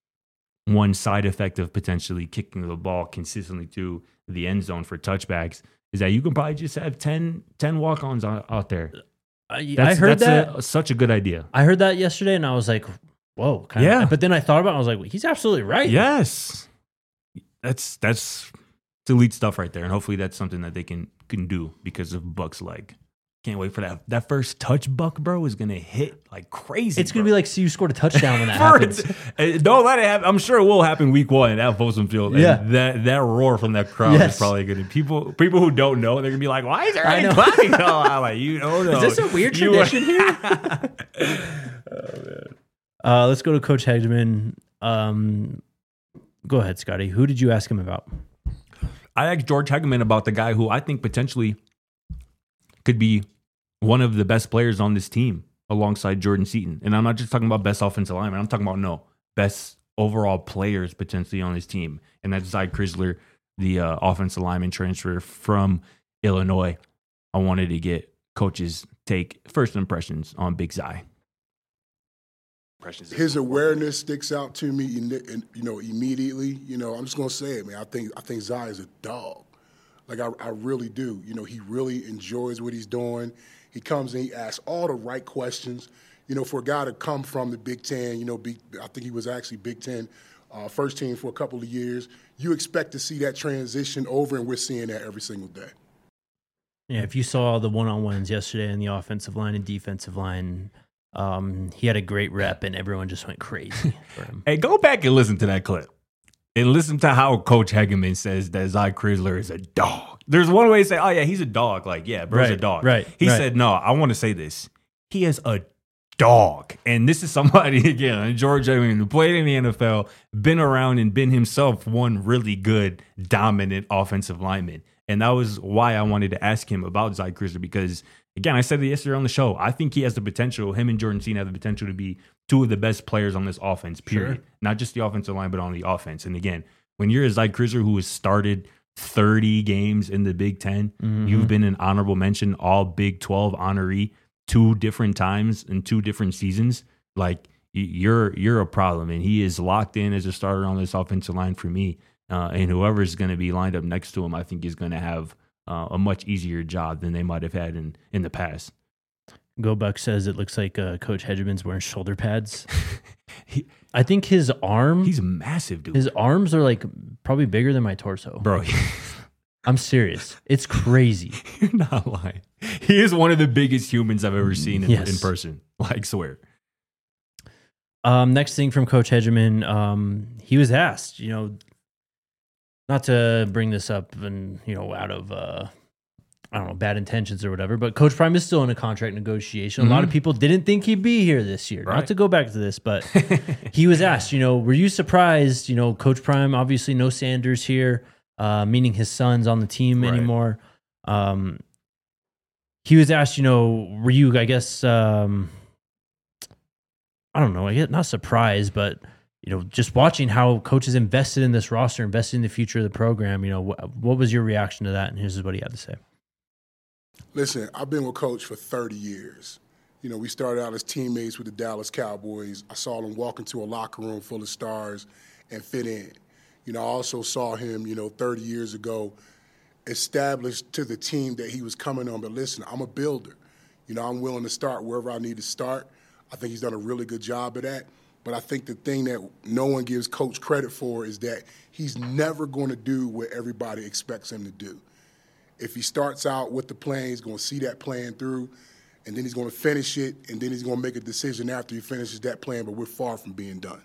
one side effect of potentially kicking the ball consistently to the end zone for touchbacks is that you can probably just have 10 walk-ons out there. I heard that's such a good idea. I heard that yesterday, and I was like, whoa. But then I thought about it, I was like, well, he's absolutely right. Yes. That's elite stuff right there. And hopefully that's something that they can do because of Buck's leg. Can't wait for that. That first touch, Buck, bro, is going to hit like crazy. It's going to be like, see, you scored a touchdown when that happens. Don't let it happen. I'm sure it will happen week 1 at Folsom Field. Yeah. And that roar from that crowd is probably going to people who don't know, they're going to be like, why is there any clapping? No, I'm like, you don't know. Is this a weird tradition here? Let's go to Coach Hegeman. Go ahead, Scotty. Who did you ask him about? I asked George Hegeman about the guy who I think potentially could be one of the best players on this team alongside Jordan Seaton. And I'm not just talking about best offensive lineman. I'm talking about, best overall players potentially on this team. And that's Zy Crisler, the offensive lineman transfer from Illinois. I wanted to get Coach's first impressions on Big Zy. His awareness sticks out to me, immediately. I'm just going to say it, man. I think Zy is a dog. Like, I really do. He really enjoys what he's doing. He comes and he asks all the right questions. For a guy to come from the Big Ten, I think he was actually Big Ten first team for a couple of years. You expect to see that transition over, and we're seeing that every single day. Yeah, if you saw the one-on-ones yesterday in the offensive line and defensive line, he had a great rep, and everyone just went crazy for him. Hey, go back and listen to that clip. And listen to how Coach Hegeman says that Zy Crisler is a dog. There's one way to say, oh, yeah, he's a dog. Like, yeah, bro's a dog. Right. He said, no, I want to say this. He is a dog. And this is somebody, again, George Hegeman, who played in the NFL, been around and been himself one really good, dominant offensive lineman. And that was why I wanted to ask him about Zy Crisler because, again, I said it yesterday on the show. I think he has the potential, him and Jordan Seaton have the potential to be two of the best players on this offense, period. Sure. Not just the offensive line, but on the offense. And again, when you're a Zy Crisler who has started 30 games in the Big Ten, you've been an honorable mention, all Big 12 honoree 2 different times in 2 different seasons, like you're a problem. And he is locked in as a starter on this offensive line for me. And whoever's going to be lined up next to him, I think is going to have a much easier job than they might have had in the past. Gobuck says it looks like Coach Hegeman's wearing shoulder pads. I think his arm... He's massive, dude. His arms are like probably bigger than my torso. Bro. I'm serious. It's crazy. You're not lying. He is one of the biggest humans I've ever seen in person. Like, swear. Next thing from Coach Hegeman, he was asked, not to bring this up and, out of, I don't know, bad intentions or whatever, but Coach Prime is still in a contract negotiation. A lot of people didn't think he'd be here this year. Right. Not to go back to this, but he was asked, were you surprised, Coach Prime, obviously no Sanders here, meaning his son's on the team anymore. He was asked, were you, I guess, I don't know, I guess not surprised, but, just watching how coach is invested in this roster, invested in the future of the program, what was your reaction to that? And here's what he had to say. Listen, I've been with Coach for 30 years. We started out as teammates with the Dallas Cowboys. I saw him walk into a locker room full of stars and fit in. I also saw him, 30 years ago, established to the team that he was coming on. But listen, I'm a builder. I'm willing to start wherever I need to start. I think he's done a really good job of that. But I think the thing that no one gives Coach credit for is that he's never going to do what everybody expects him to do. If he starts out with the plan, he's going to see that plan through, and then he's going to finish it, and then he's going to make a decision after he finishes that plan, but we're far from being done.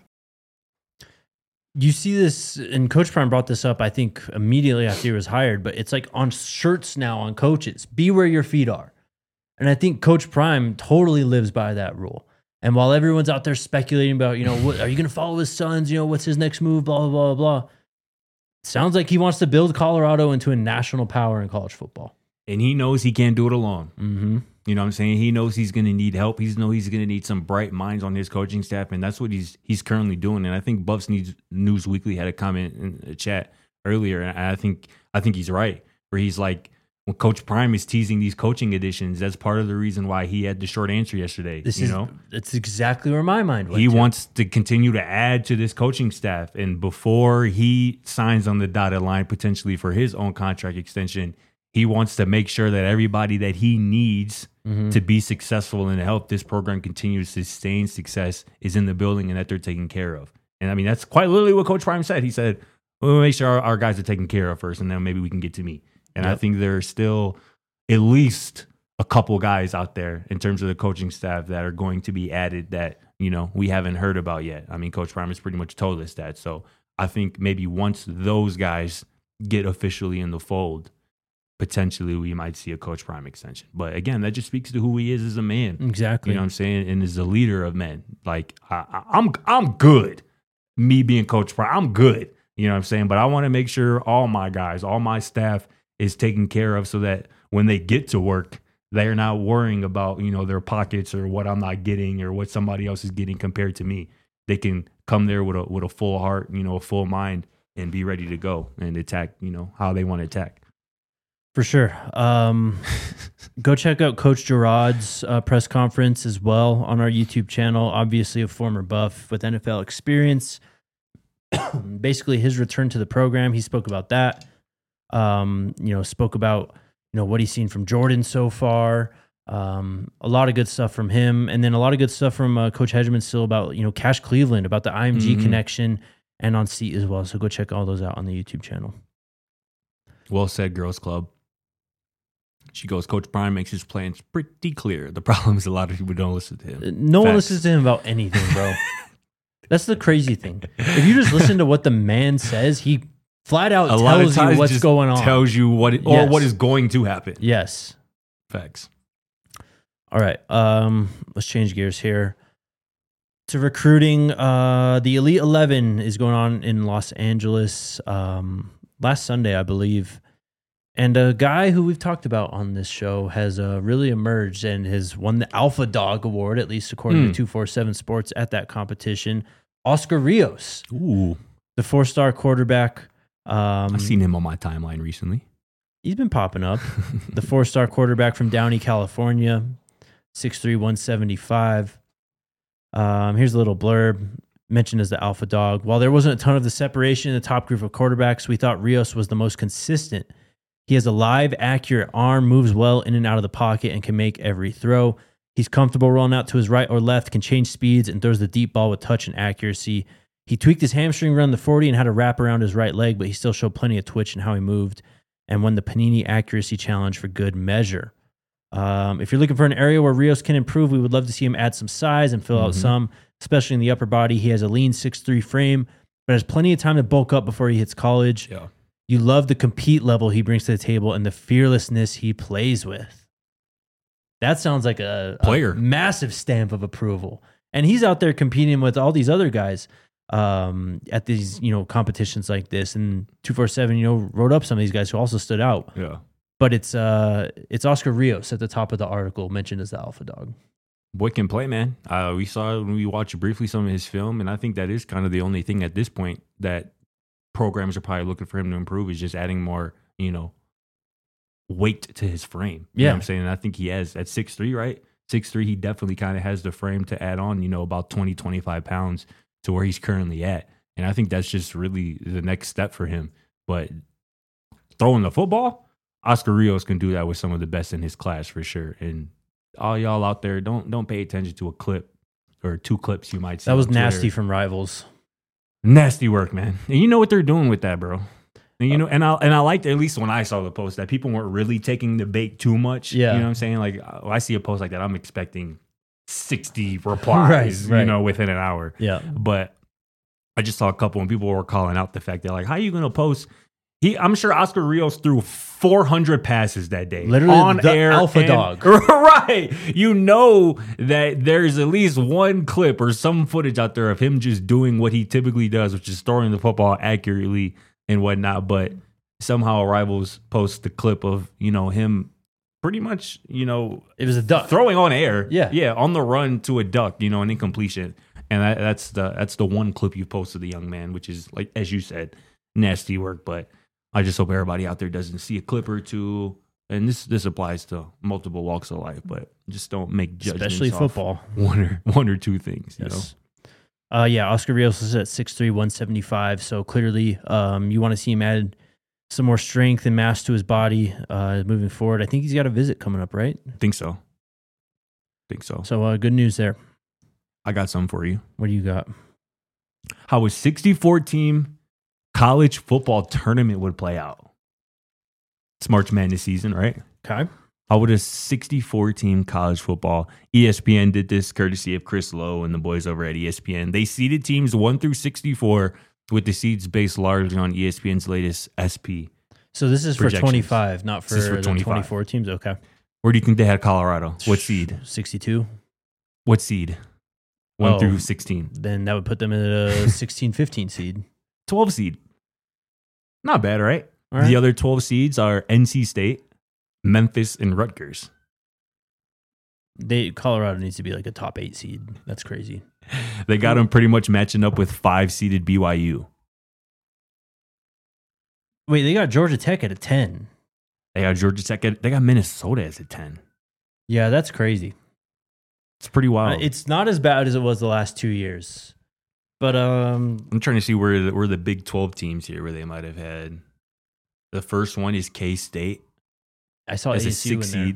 You see this, and Coach Prime brought this up, I think, immediately after he was hired, but it's like on shirts now on coaches. Be where your feet are. And I think Coach Prime totally lives by that rule. And while everyone's out there speculating about, what, are you going to follow his sons? What's his next move? Blah, blah, blah, blah. Sounds like he wants to build Colorado into a national power in college football. And he knows he can't do it alone. Mm-hmm. You know what I'm saying? He knows he's going to need help. He knows he's going to need some bright minds on his coaching staff, and that's what he's currently doing. And I think Buffs News Weekly had a comment in the chat earlier, and I think he's right, where he's like, when Coach Prime is teasing these coaching additions, that's part of the reason why he had the short answer yesterday. That's exactly where my mind went. He wants to continue to add to this coaching staff, and before he signs on the dotted line potentially for his own contract extension, he wants to make sure that everybody that he needs to be successful and to help this program continue to sustain success is in the building and that they're taken care of. And I mean, that's quite literally what Coach Prime said. He said, we'll make sure our guys are taken care of first, and then maybe we can get to me. And I think there's still at least a couple guys out there in terms of the coaching staff that are going to be added that, we haven't heard about yet. I mean, Coach Prime has pretty much told us that. So I think maybe once those guys get officially in the fold, potentially we might see a Coach Prime extension. But again, that just speaks to who he is as a man. Exactly. You know what I'm saying? And as a leader of men. Like, I'm good. Me being Coach Prime, I'm good. You know what I'm saying? But I want to make sure all my guys, all my staff is taken care of so that when they get to work, they're not worrying about, their pockets or what I'm not getting or what somebody else is getting compared to me. They can come there with a full heart, a full mind, and be ready to go and attack, how they want to attack. For sure. Go check out Coach Gerard's press conference as well on our YouTube channel. Obviously a former Buff with NFL experience. Basically his return to the program. He spoke about that. Spoke about, what he's seen from Jordan so far. A lot of good stuff from him. And then a lot of good stuff from Coach Hegeman still about, Cash Cleveland, about the IMG connection and on Seat as well. So go check all those out on the YouTube channel. Well said, Girls Club. She goes, Coach Prime makes his plans pretty clear. The problem is a lot of people don't listen to him. No one listens to him about anything, bro. That's the crazy thing. If you just listen to what the man says, he flat out tells you what's going on. Tells you what what is going to happen. Yes. Facts. All right. Let's change gears here to recruiting. The Elite 11 is going on in Los Angeles last Sunday, I believe. And a guy who we've talked about on this show has really emerged and has won the Alpha Dog Award, at least according to 247 Sports, at that competition. Oscar Rios. Ooh. The 4-star quarterback. I've seen him on my timeline recently. He's been popping up. The 4-star quarterback from Downey, California, 6'3", 175. Here's a little blurb. Mentioned as the Alpha Dog. While there wasn't a ton of the separation in the top group of quarterbacks, we thought Rios was the most consistent. He has a live, accurate arm, moves well in and out of the pocket, and can make every throw. He's comfortable rolling out to his right or left, can change speeds, and throws the deep ball with touch and accuracy. He tweaked his hamstring around the 40 and had a wrap around his right leg, but he still showed plenty of twitch in how he moved and won the Panini Accuracy Challenge for good measure. If you're looking for an area where Rios can improve, we would love to see him add some size and fill out some. especially in the upper body. He has a lean 6'3" frame, but has plenty of time to bulk up before he hits college. Yeah. You love the compete level he brings to the table and the fearlessness he plays with. That sounds like a massive stamp of approval. And he's out there competing with all these other guys at these, competitions like this. And 247, wrote up some of these guys who also stood out. Yeah. But it's Oscar Rios at the top of the article mentioned as the alpha dog. Boy can play, man. We saw when we watched briefly some of his film, and I think that is kind of the only thing at this point that programs are probably looking for him to improve is just adding more, weight to his frame. You know what I'm saying? And I think he has at 6'3", right? 6'3", he definitely kind of has the frame to add on, about 20, 25 pounds to where he's currently at. And I think that's just really the next step for him. But throwing the football, Oscar Rios can do that with some of the best in his class for sure. And all y'all out there, don't pay attention to a clip or 2 clips you might see. That was nasty from Rivals. Nasty work, man. And you know what they're doing with that, bro. And and I liked, at least when I saw the post, that people weren't really taking the bait too much. Yeah. You know what I'm saying? Like, when I see a post like that, I'm expecting 60 replies, right. Within an hour. Yeah. But I just saw a couple and people were calling out the fact that, like, how are you going to post? I'm sure Oscar Rios threw 400 passes that day. Literally on the air alpha dog. Right. You know that there's at least one clip or some footage out there of him just doing what he typically does, which is throwing the football accurately and whatnot. But somehow Rivals post the clip of, him pretty much, it was a duck throwing on air. Yeah. On the run to a duck, an incompletion. And that's the one clip you posted, the young man, which is, like, as you said, nasty work. But I just hope everybody out there doesn't see a clip or two, and this applies to multiple walks of life, but just don't make judgments, especially football, one or two things. Yes. Oscar Rios is at 6'3", 175. So clearly, you want to see him add some more strength and mass to his body moving forward. I think he's got a visit coming up, right? I think so. So good news there. I got some for you. What do you got? How a 64-team college football tournament would play out. It's March Madness season, right? Okay. How would a 64-team college football? ESPN did this courtesy of Chris Lowe and the boys over at ESPN. They seeded teams 1 through 64 with the seeds based largely on ESPN's latest SP. So this is for 25, not for the 24 teams? Okay. Where do you think they had Colorado? What seed? 62. What seed? 1 through 16. Then that would put them in a 16, 15 seed. 12 seed. Not bad, right? The other 12 seeds are NC State, Memphis, and Rutgers. Colorado needs to be like a top 8 seed. That's crazy. They got them pretty much matching up with 5-seeded BYU. Wait, they got Georgia Tech at a 10. They got Georgia Tech. They got Minnesota as a 10. Yeah, that's crazy. It's pretty wild. It's not as bad as it was the last 2 years. But I'm trying to see where the Big 12 teams here where they might have had. The first one is K-State. I saw as ASU a 6 seed.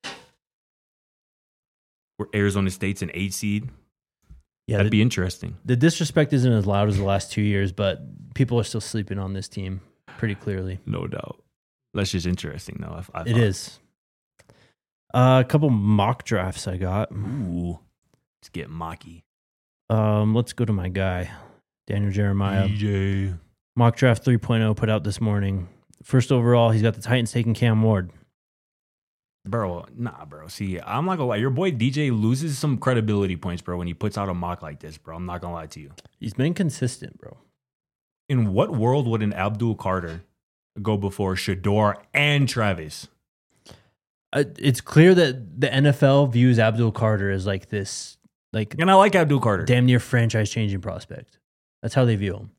Where Arizona State's an 8 seed. Yeah, that'd be interesting. The disrespect isn't as loud as the last 2 years, but people are still sleeping on this team pretty clearly. No doubt. That's just interesting, though. It is. A couple mock drafts I got. Ooh, let's get mocky. Let's go to my guy, Daniel Jeremiah. DJ. Mock draft 3.0 put out this morning. First overall, he's got the Titans taking Cam Ward. Bro. See, I'm not gonna lie. Your boy DJ loses some credibility points, bro, when he puts out a mock like this, bro. I'm not gonna lie to you. He's been consistent, bro. In what world would an Abdul Carter go before Shedeur and Travis? It's clear that the NFL views Abdul Carter as like this, and I like Abdul Carter, damn near franchise-changing prospect. That's how they view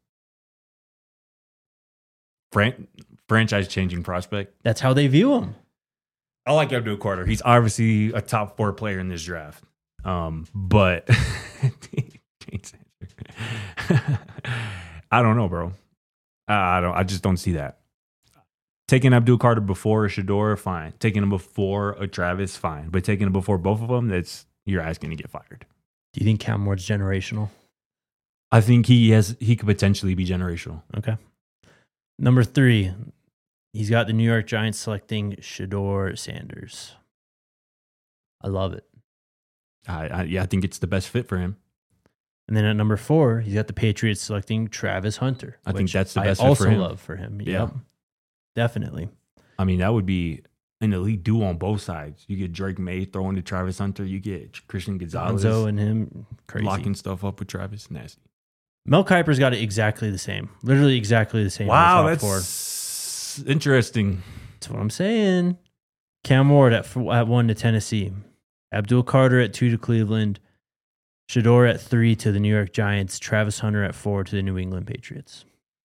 him. Franchise-changing prospect. That's how they view him. I like Abdul Carter. He's obviously a top 4 player in this draft. But I don't know, bro. I just don't see that. Taking Abdul Carter before a Shedeur, fine. Taking him before a Travis, fine. But taking him before both of them, you're asking to get fired. Do you think Cam Ward's generational? I think he could potentially be generational. Okay. Number 3, he's got the New York Giants selecting Shedeur Sanders. I love it. I think it's the best fit for him. And then at number 4, he's got the Patriots selecting Travis Hunter. I think that's the best I also fit for him. love for him. Yeah. Yep. Definitely. I mean, that would be an elite duo on both sides. You get Drake May throwing to Travis Hunter. You get Christian Gonzalez Gonzo and him, crazy. locking stuff up with Travis. Nasty. Mel Kiper's got it exactly the same. Literally exactly the same. Wow, that's interesting. That's what I'm saying. Cam Ward at 1 to Tennessee. Abdul Carter at 2 to Cleveland. Shedeur at 3 to the New York Giants. Travis Hunter at 4 to the New England Patriots.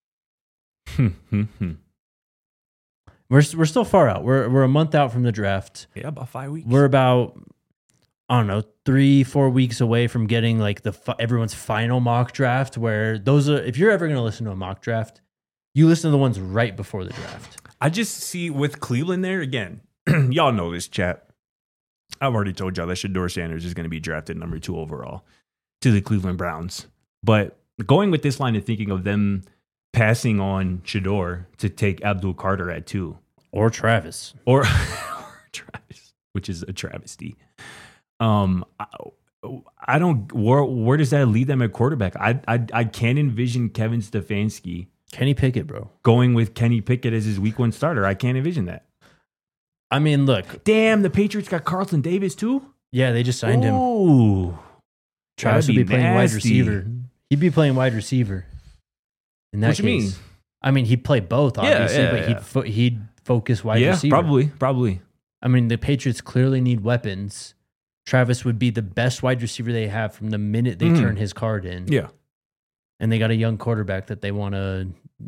We're still far out. We're a month out from the draft. Yeah, about 5 weeks. We're about, I don't know, 3-4 weeks away from getting like everyone's final mock draft. Where those are, if you're ever going to listen to a mock draft, you listen to the ones right before the draft. I just see with Cleveland there again. Y'all know this, chat. I've already told y'all that Shedeur Sanders is going to be drafted number 2 overall to the Cleveland Browns. But going with this line of thinking of them passing on Shedeur to take Abdul Carter at 2. Or Travis. Or Travis, which is a travesty. I don't, where does that lead them at quarterback? I can't envision Kevin Stefanski. Kenny Pickett, bro. Going with Kenny Pickett as his week 1 starter. I can't envision that. I mean, look. Damn, the Patriots got Carlton Davis too? Yeah, they just signed him. Ooh. Travis would be playing wide receiver. He'd be playing wide receiver. In that what you mean? I mean, he'd play both, obviously, but he'd focus wide receiver. Yeah, probably. I mean, the Patriots clearly need weapons. Travis would be the best wide receiver they have from the minute they turn his card in. Yeah. And they got a young quarterback that they want to,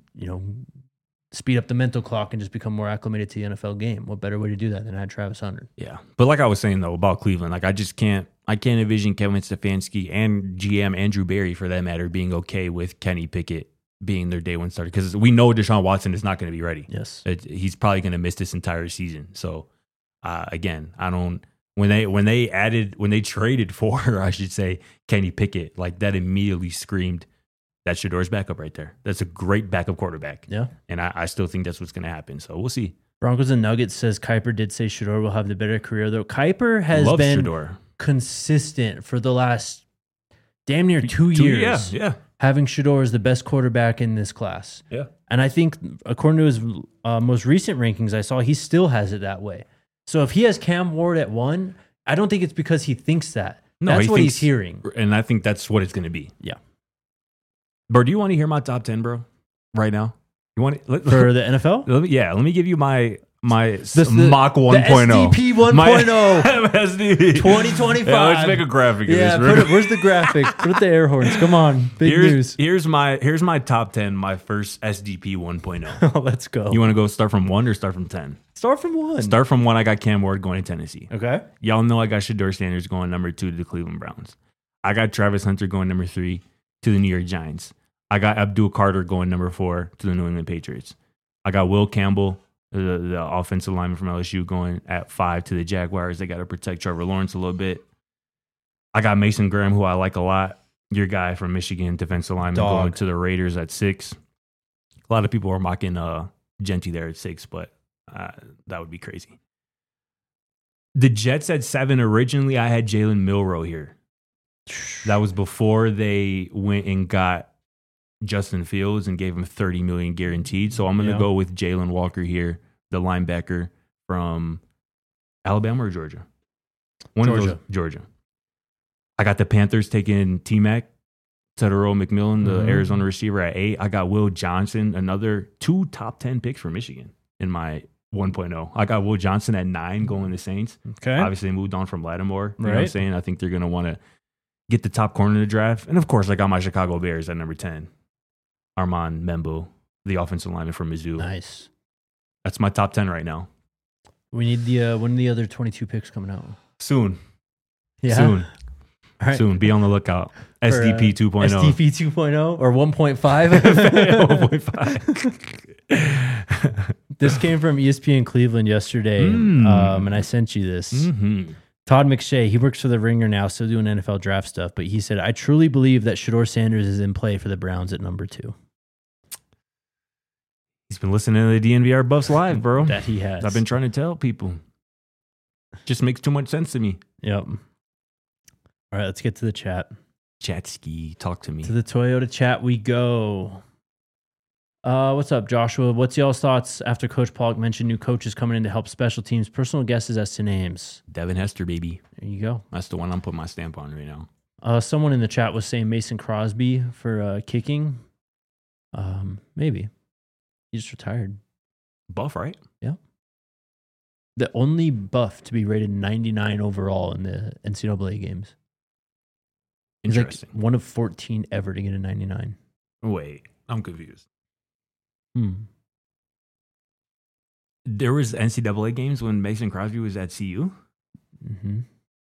speed up the mental clock and just become more acclimated to the NFL game. What better way to do that than add Travis Hunter? Yeah. But like I was saying, though, about Cleveland, like I can't envision Kevin Stefanski and GM Andrew Berry, for that matter, being okay with Kenny Pickett being their day 1 starter. Because we know Deshaun Watson is not going to be ready. Yes. He's probably going to miss this entire season. So, again, I don't... When they traded for, I should say, Kenny Pickett, like that immediately screamed, that's Shedeur's backup right there. That's a great backup quarterback. Yeah. And I still think that's what's going to happen. So we'll see. Broncos and Nuggets says Kiper did say Shedeur will have the better career, though. Kiper has been consistent for the last damn near 2 years. Yeah. Having Shedeur as the best quarterback in this class. Yeah. And I think, according to his most recent rankings I saw, he still has it that way. So if he has Cam Ward at 1, I don't think it's because he thinks that. No, that's what he's hearing. And I think that's what it's going to be. Yeah. Bro, do you want to hear my top 10, bro? Right now? You want it? For the NFL? Let me give you my mock 1.0. The SDP 1.0. SDP. 2025. Yeah, let's make a graphic of this. Where's the graphic? Put the air horns. Come on. News. Here's my top 10, my first SDP 1.0. Oh, let's go. You want to go start from 1 or start from 10? Start from 1. Start from 1. I got Cam Ward going to Tennessee. Okay. Y'all know I got Shedeur Sanders going number 2 to the Cleveland Browns. I got Travis Hunter going number 3 to the New York Giants. I got Abdul Carter going number 4 to the New England Patriots. I got Will Campbell, the offensive lineman from LSU, going at 5 to the Jaguars. They got to protect Trevor Lawrence a little bit. I got Mason Graham, who I like a lot. Your guy from Michigan, defensive lineman, going to the Raiders at 6. A lot of people are mocking Genty there at 6, but that would be crazy. The Jets at 7. Originally, I had Jalen Milroe here. That was before they went and got Justin Fields and gave him $30 million guaranteed. So I'm going to go with Jalen Walker here, the linebacker from Alabama or Georgia? Georgia. I got the Panthers taking T-Mac, Tedero McMillan, the Arizona receiver, at 8. I got Will Johnson, another 2 top 10 picks for Michigan in my 1.0. I got Will Johnson at 9 going to Saints. Okay. Obviously moved on from Lattimore. You know what I'm saying? I think they're going to want to get the top corner in the draft. And of course, I got my Chicago Bears at number 10. Armand Membo, the offensive lineman from Mizzou. Nice. That's my top 10 right now. We need when are the other 22 picks coming out? Soon. Yeah. Soon. All right. Soon. Be on the lookout. SDP 2.0. SDP 2.0 or 1.5? 1.5. This came from ESPN Cleveland yesterday, and I sent you this. Mm-hmm. Todd McShay, he works for the Ringer now, still doing NFL draft stuff, but he said, I truly believe that Shedeur Sanders is in play for the Browns at number 2. He's been listening to the DNVR Buffs live, bro. That he has. I've been trying to tell people. Just makes too much sense to me. Yep. All right, let's get to the chat. Chatski, talk to me. To the Toyota chat we go. What's up, Joshua? What's y'all's thoughts after Coach Pollock mentioned new coaches coming in to help special teams? Personal guesses as to names. Devin Hester, baby. There you go. That's the one I'm putting my stamp on right now. Someone in the chat was saying Mason Crosby for kicking. Maybe. He just retired. Buff, right? Yeah. The only buff to be rated 99 overall in the NCAA games. Interesting. Like one of 14 ever to get a 99. Wait, I'm confused. There was NCAA games when Mason Crosby was at CU? Mm-hmm.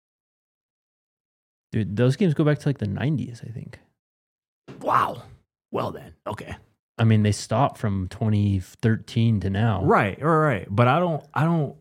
Dude, those games go back to like the 90s, I think. Wow. Well then, okay. I mean, they stopped from 2013 to now. Right. But I don't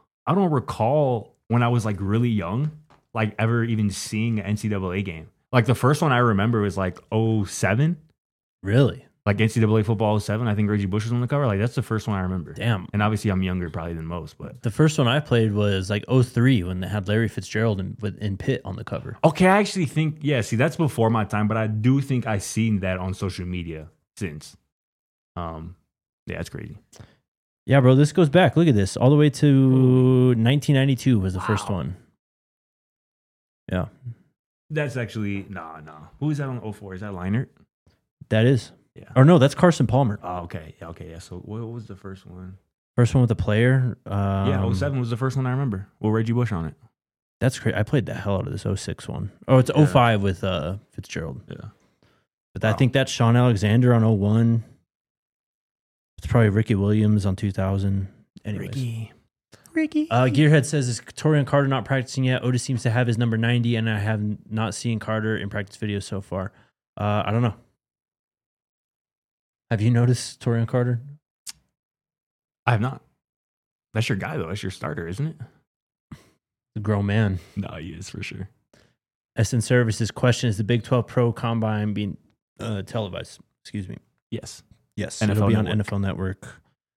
recall when I was like really young, like ever even seeing an NCAA game. Like the first one I remember was like 07. Really? Like NCAA football 07. I think Reggie Bush was on the cover. Like that's the first one I remember. Damn. And obviously I'm younger probably than most, but the first one I played was like 03 when they had Larry Fitzgerald in Pitt on the cover. Okay, I actually think, see, that's before my time, but I do think I've seen that on social media since. Yeah, it's crazy. Yeah, bro, this goes back. Look at this. All the way to 1992 was the first one. Yeah. That's actually, no. Who is that on 04? Is that Leinert? That is. Yeah. Or no, that's Carson Palmer. Oh, okay. Yeah. So what was the first one? First one with the player. 07 was the first one I remember. With Reggie Bush on it. That's great. I played the hell out of this 06 one. Oh, it's 05 with Fitzgerald. Yeah. But I think that's Sean Alexander on 01. It's probably Ricky Williams on 2000. Anyways. Ricky. Gearhead says, is Torian Carter not practicing yet? Otis seems to have his number 90, and I have not seen Carter in practice videos so far. I don't know. Have you noticed Torian Carter? I have not. That's your guy, though. That's your starter, isn't it? The grown man. No, he is for sure. SN Services question, is the Big 12 Pro Combine being televised? Excuse me. Yes. It'll be on NFL Network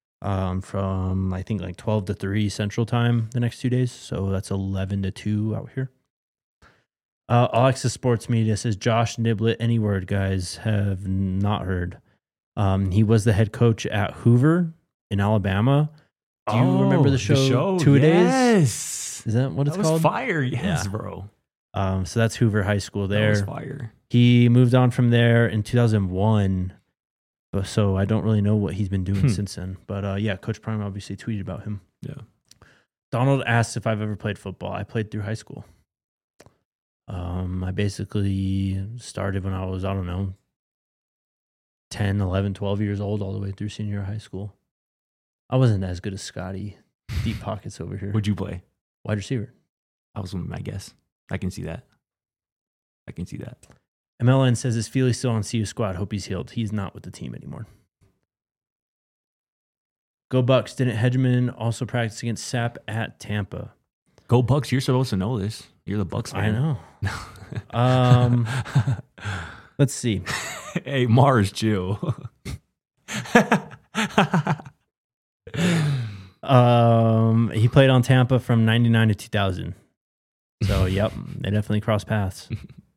from, I think, like 12 to 3 Central Time the next 2 days. So that's 11 to 2 out here. Alexis Sports Media says, Josh Niblett, any word, guys? Have not heard. He was the head coach at Hoover in Alabama. Do you remember the show 2 Days? Yes. Is that what it's called? Fire. Yes, bro. So that's Hoover High School there. That was fire. He moved on from there in 2001. So I don't really know what he's been doing since then. But yeah, Coach Prime obviously tweeted about him. Yeah. Donald asked if I've ever played football. I played through high school. I basically started when I was, 10, 11, 12 years old, all the way through senior high school. I wasn't as good as Scotty. Deep pockets over here. What'd you play? Wide receiver. I was my guess. I can see that. MLN says, is Feely still on CU squad? Hope he's healed. He's not with the team anymore. Go Bucks. Didn't Hedgeman also practice against Sapp at Tampa? Go Bucks. You're supposed to know this. You're the Bucks fan. I know. Let's see. Hey, Mars, chill. He played on Tampa from 99 to 2000. So, yep, they definitely crossed paths.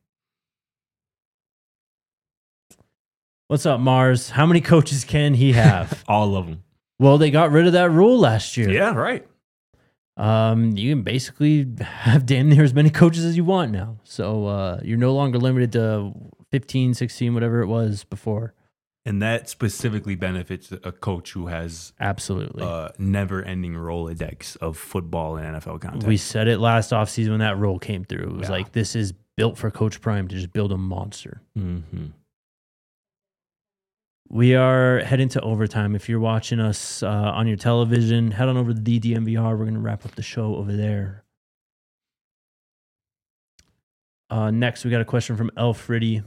What's up, Mars? How many coaches can he have? All of them. Well, they got rid of that rule last year. Yeah, right. You can basically have damn near as many coaches as you want now. So you're no longer limited to 15, 16, whatever it was before. And that specifically benefits a coach who has absolutely never-ending Rolodex of football and NFL content. We said it last offseason when that rule came through. It was like, this is built for Coach Prime to just build a monster. Mm-hmm. We are heading to overtime. If you're watching us on your television, head on over to the DMVR. We're going to wrap up the show over there. Next, we got a question from Elfriddy.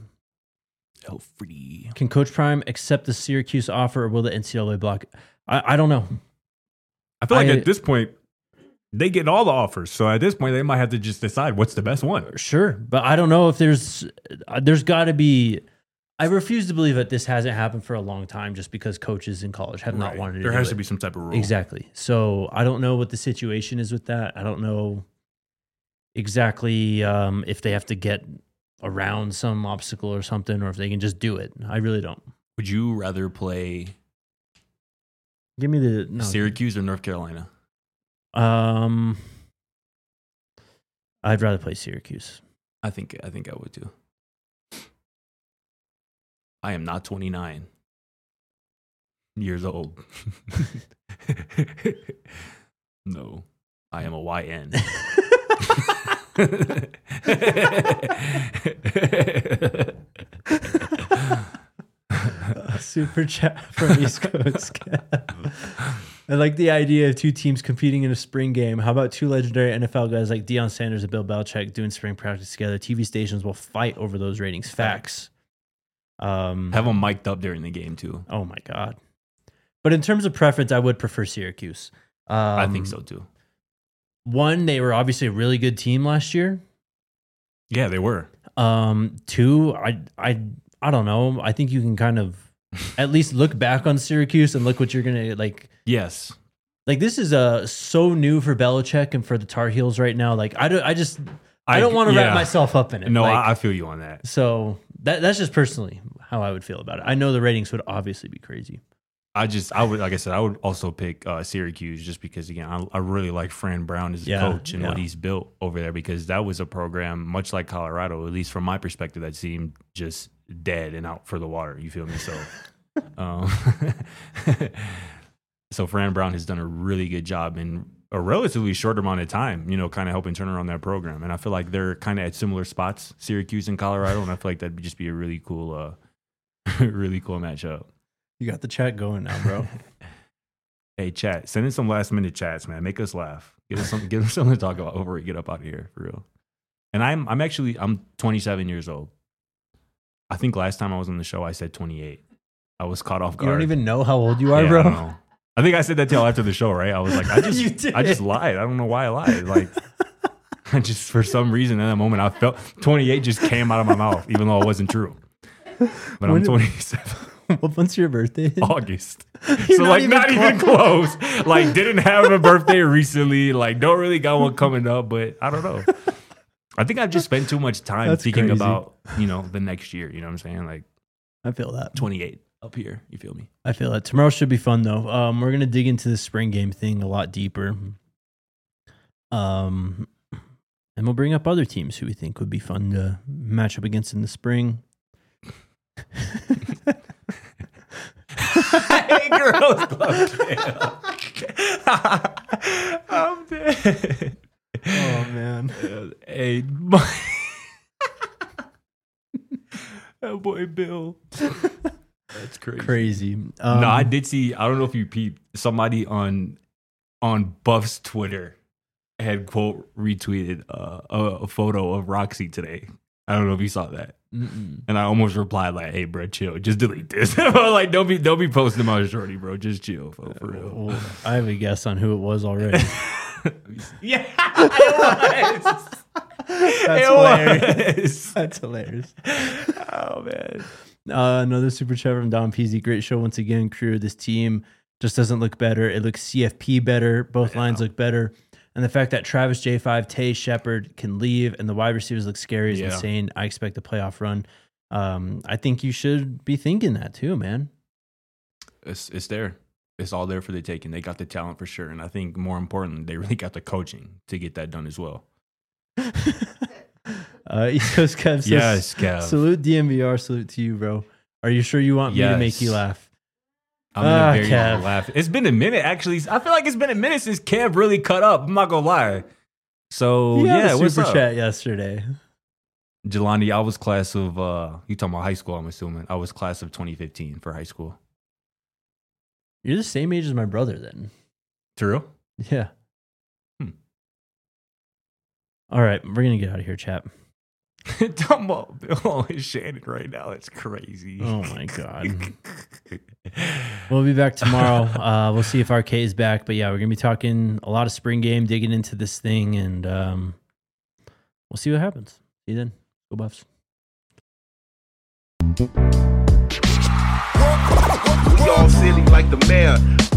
Can Coach Prime accept the Syracuse offer, or will the NCAA block? I don't know. I feel like at this point, they get all the offers. So at this point, they might have to just decide what's the best one. Sure. But I don't know if there's got to be... I refuse to believe that this hasn't happened for a long time just because coaches in college have not wanted to do it. There has to be some type of rule. Exactly. So I don't know what the situation is with that. I don't know exactly if they have to get around some obstacle or something, or if they can just do it. I really don't. Would you rather play Give me the Syracuse or North Carolina? I'd rather play Syracuse. I think I would too. I am not 29 years old. No, I am a YN. Super chat from East Coast. I like the idea of two teams competing in a spring game. How about two legendary NFL guys like Deion Sanders and Bill Belichick doing spring practice together? TV stations will fight over those ratings. Facts. Have them mic'd up during the game too. Oh my God. But in terms of preference, I would prefer Syracuse. I think so too. One, they were obviously a really good team last year. Yeah, they were. Two, I don't know. I think you can kind of at least look back on Syracuse and look what you're gonna like. Yes. Like this is so new for Belichick and for the Tar Heels right now. Like I don't want to wrap myself up in it. No, like, I feel you on that. So that's just personally how I would feel about it. I know the ratings would obviously be crazy. I would, like I said, I would also pick Syracuse just because, again, I really like Fran Brown as a coach and what he's built over there, because that was a program, much like Colorado, at least from my perspective, that seemed just dead and out for the water. You feel me? So, so Fran Brown has done a really good job in a relatively short amount of time, kind of helping turn around that program. And I feel like they're kind of at similar spots, Syracuse and Colorado, and I feel like that'd just be a really cool matchup. You got the chat going now, bro. Hey, chat, send in some last minute chats, man. Make us laugh. Give us something to talk about before we get up out of here, for real. And I'm 27 years old. I think last time I was on the show, I said 28. I was caught off guard. You don't even know how old you are, bro? I don't know. I think I said that till after the show, right? I was like, I just lied. I don't know why I lied. Like, I just, for some reason in that moment, I felt 28 just came out of my mouth, even though it wasn't true. But I'm 27. What month's your birthday? August. So not even close. Like, didn't have a birthday recently. Like, don't really got one coming up, but I don't know. I think I've just spent too much time thinking about, the next year. You know what I'm saying? Like, I feel that. 28 up here. You feel me? I feel that. Tomorrow should be fun, though. We're going to dig into the spring game thing a lot deeper. And we'll bring up other teams who we think would be fun to match up against in the spring. Hey, girls club. I'm dead. Oh man. Hey, that boy Bill. That's crazy. No, I did see. I don't know if you peeped. Somebody on Buff's Twitter had quote retweeted a photo of Roxy today. I don't know if you saw that. Mm-mm. And I almost replied like, "Hey, bro, chill. Just delete this." Like, don't be posting about shorty, bro. Just chill, for real. Well, I have a guess on who it was already. Yeah, it was. Hilarious. That's hilarious. Oh man. Another super chat from Don Peasy. Great show once again. Crew, this team just doesn't look better. It looks CFP better. Both lines look better. And the fact that Travis J5, Tay, Shepard can leave and the wide receivers look scary is insane. I expect a playoff run. I think you should be thinking that too, man. It's there. It's all there for the taking. They got the talent for sure. And I think more important, they really got the coaching to get that done as well. East Coast Kev says, yes, Kev. Salute DMVR. Salute to you, bro. Are you sure you want me to make you laugh? I'm in a very laugh. It's been a minute, actually. I feel like it's been a minute since Kev really cut up. I'm not gonna lie. So what's super up? Chat yesterday. Jelani, I was class of you talking about high school, I'm assuming. I was class of 2015 for high school. You're the same age as my brother then. True? Yeah. All right, we're gonna get out of here, chap. Talking about Bill and Shannon right now. It's crazy. Oh my God. We'll be back tomorrow. We'll see if RK is back. But yeah, we're going to be talking a lot of spring game, digging into this thing, and we'll see what happens. See you then. Go Buffs. We all silly like the mayor.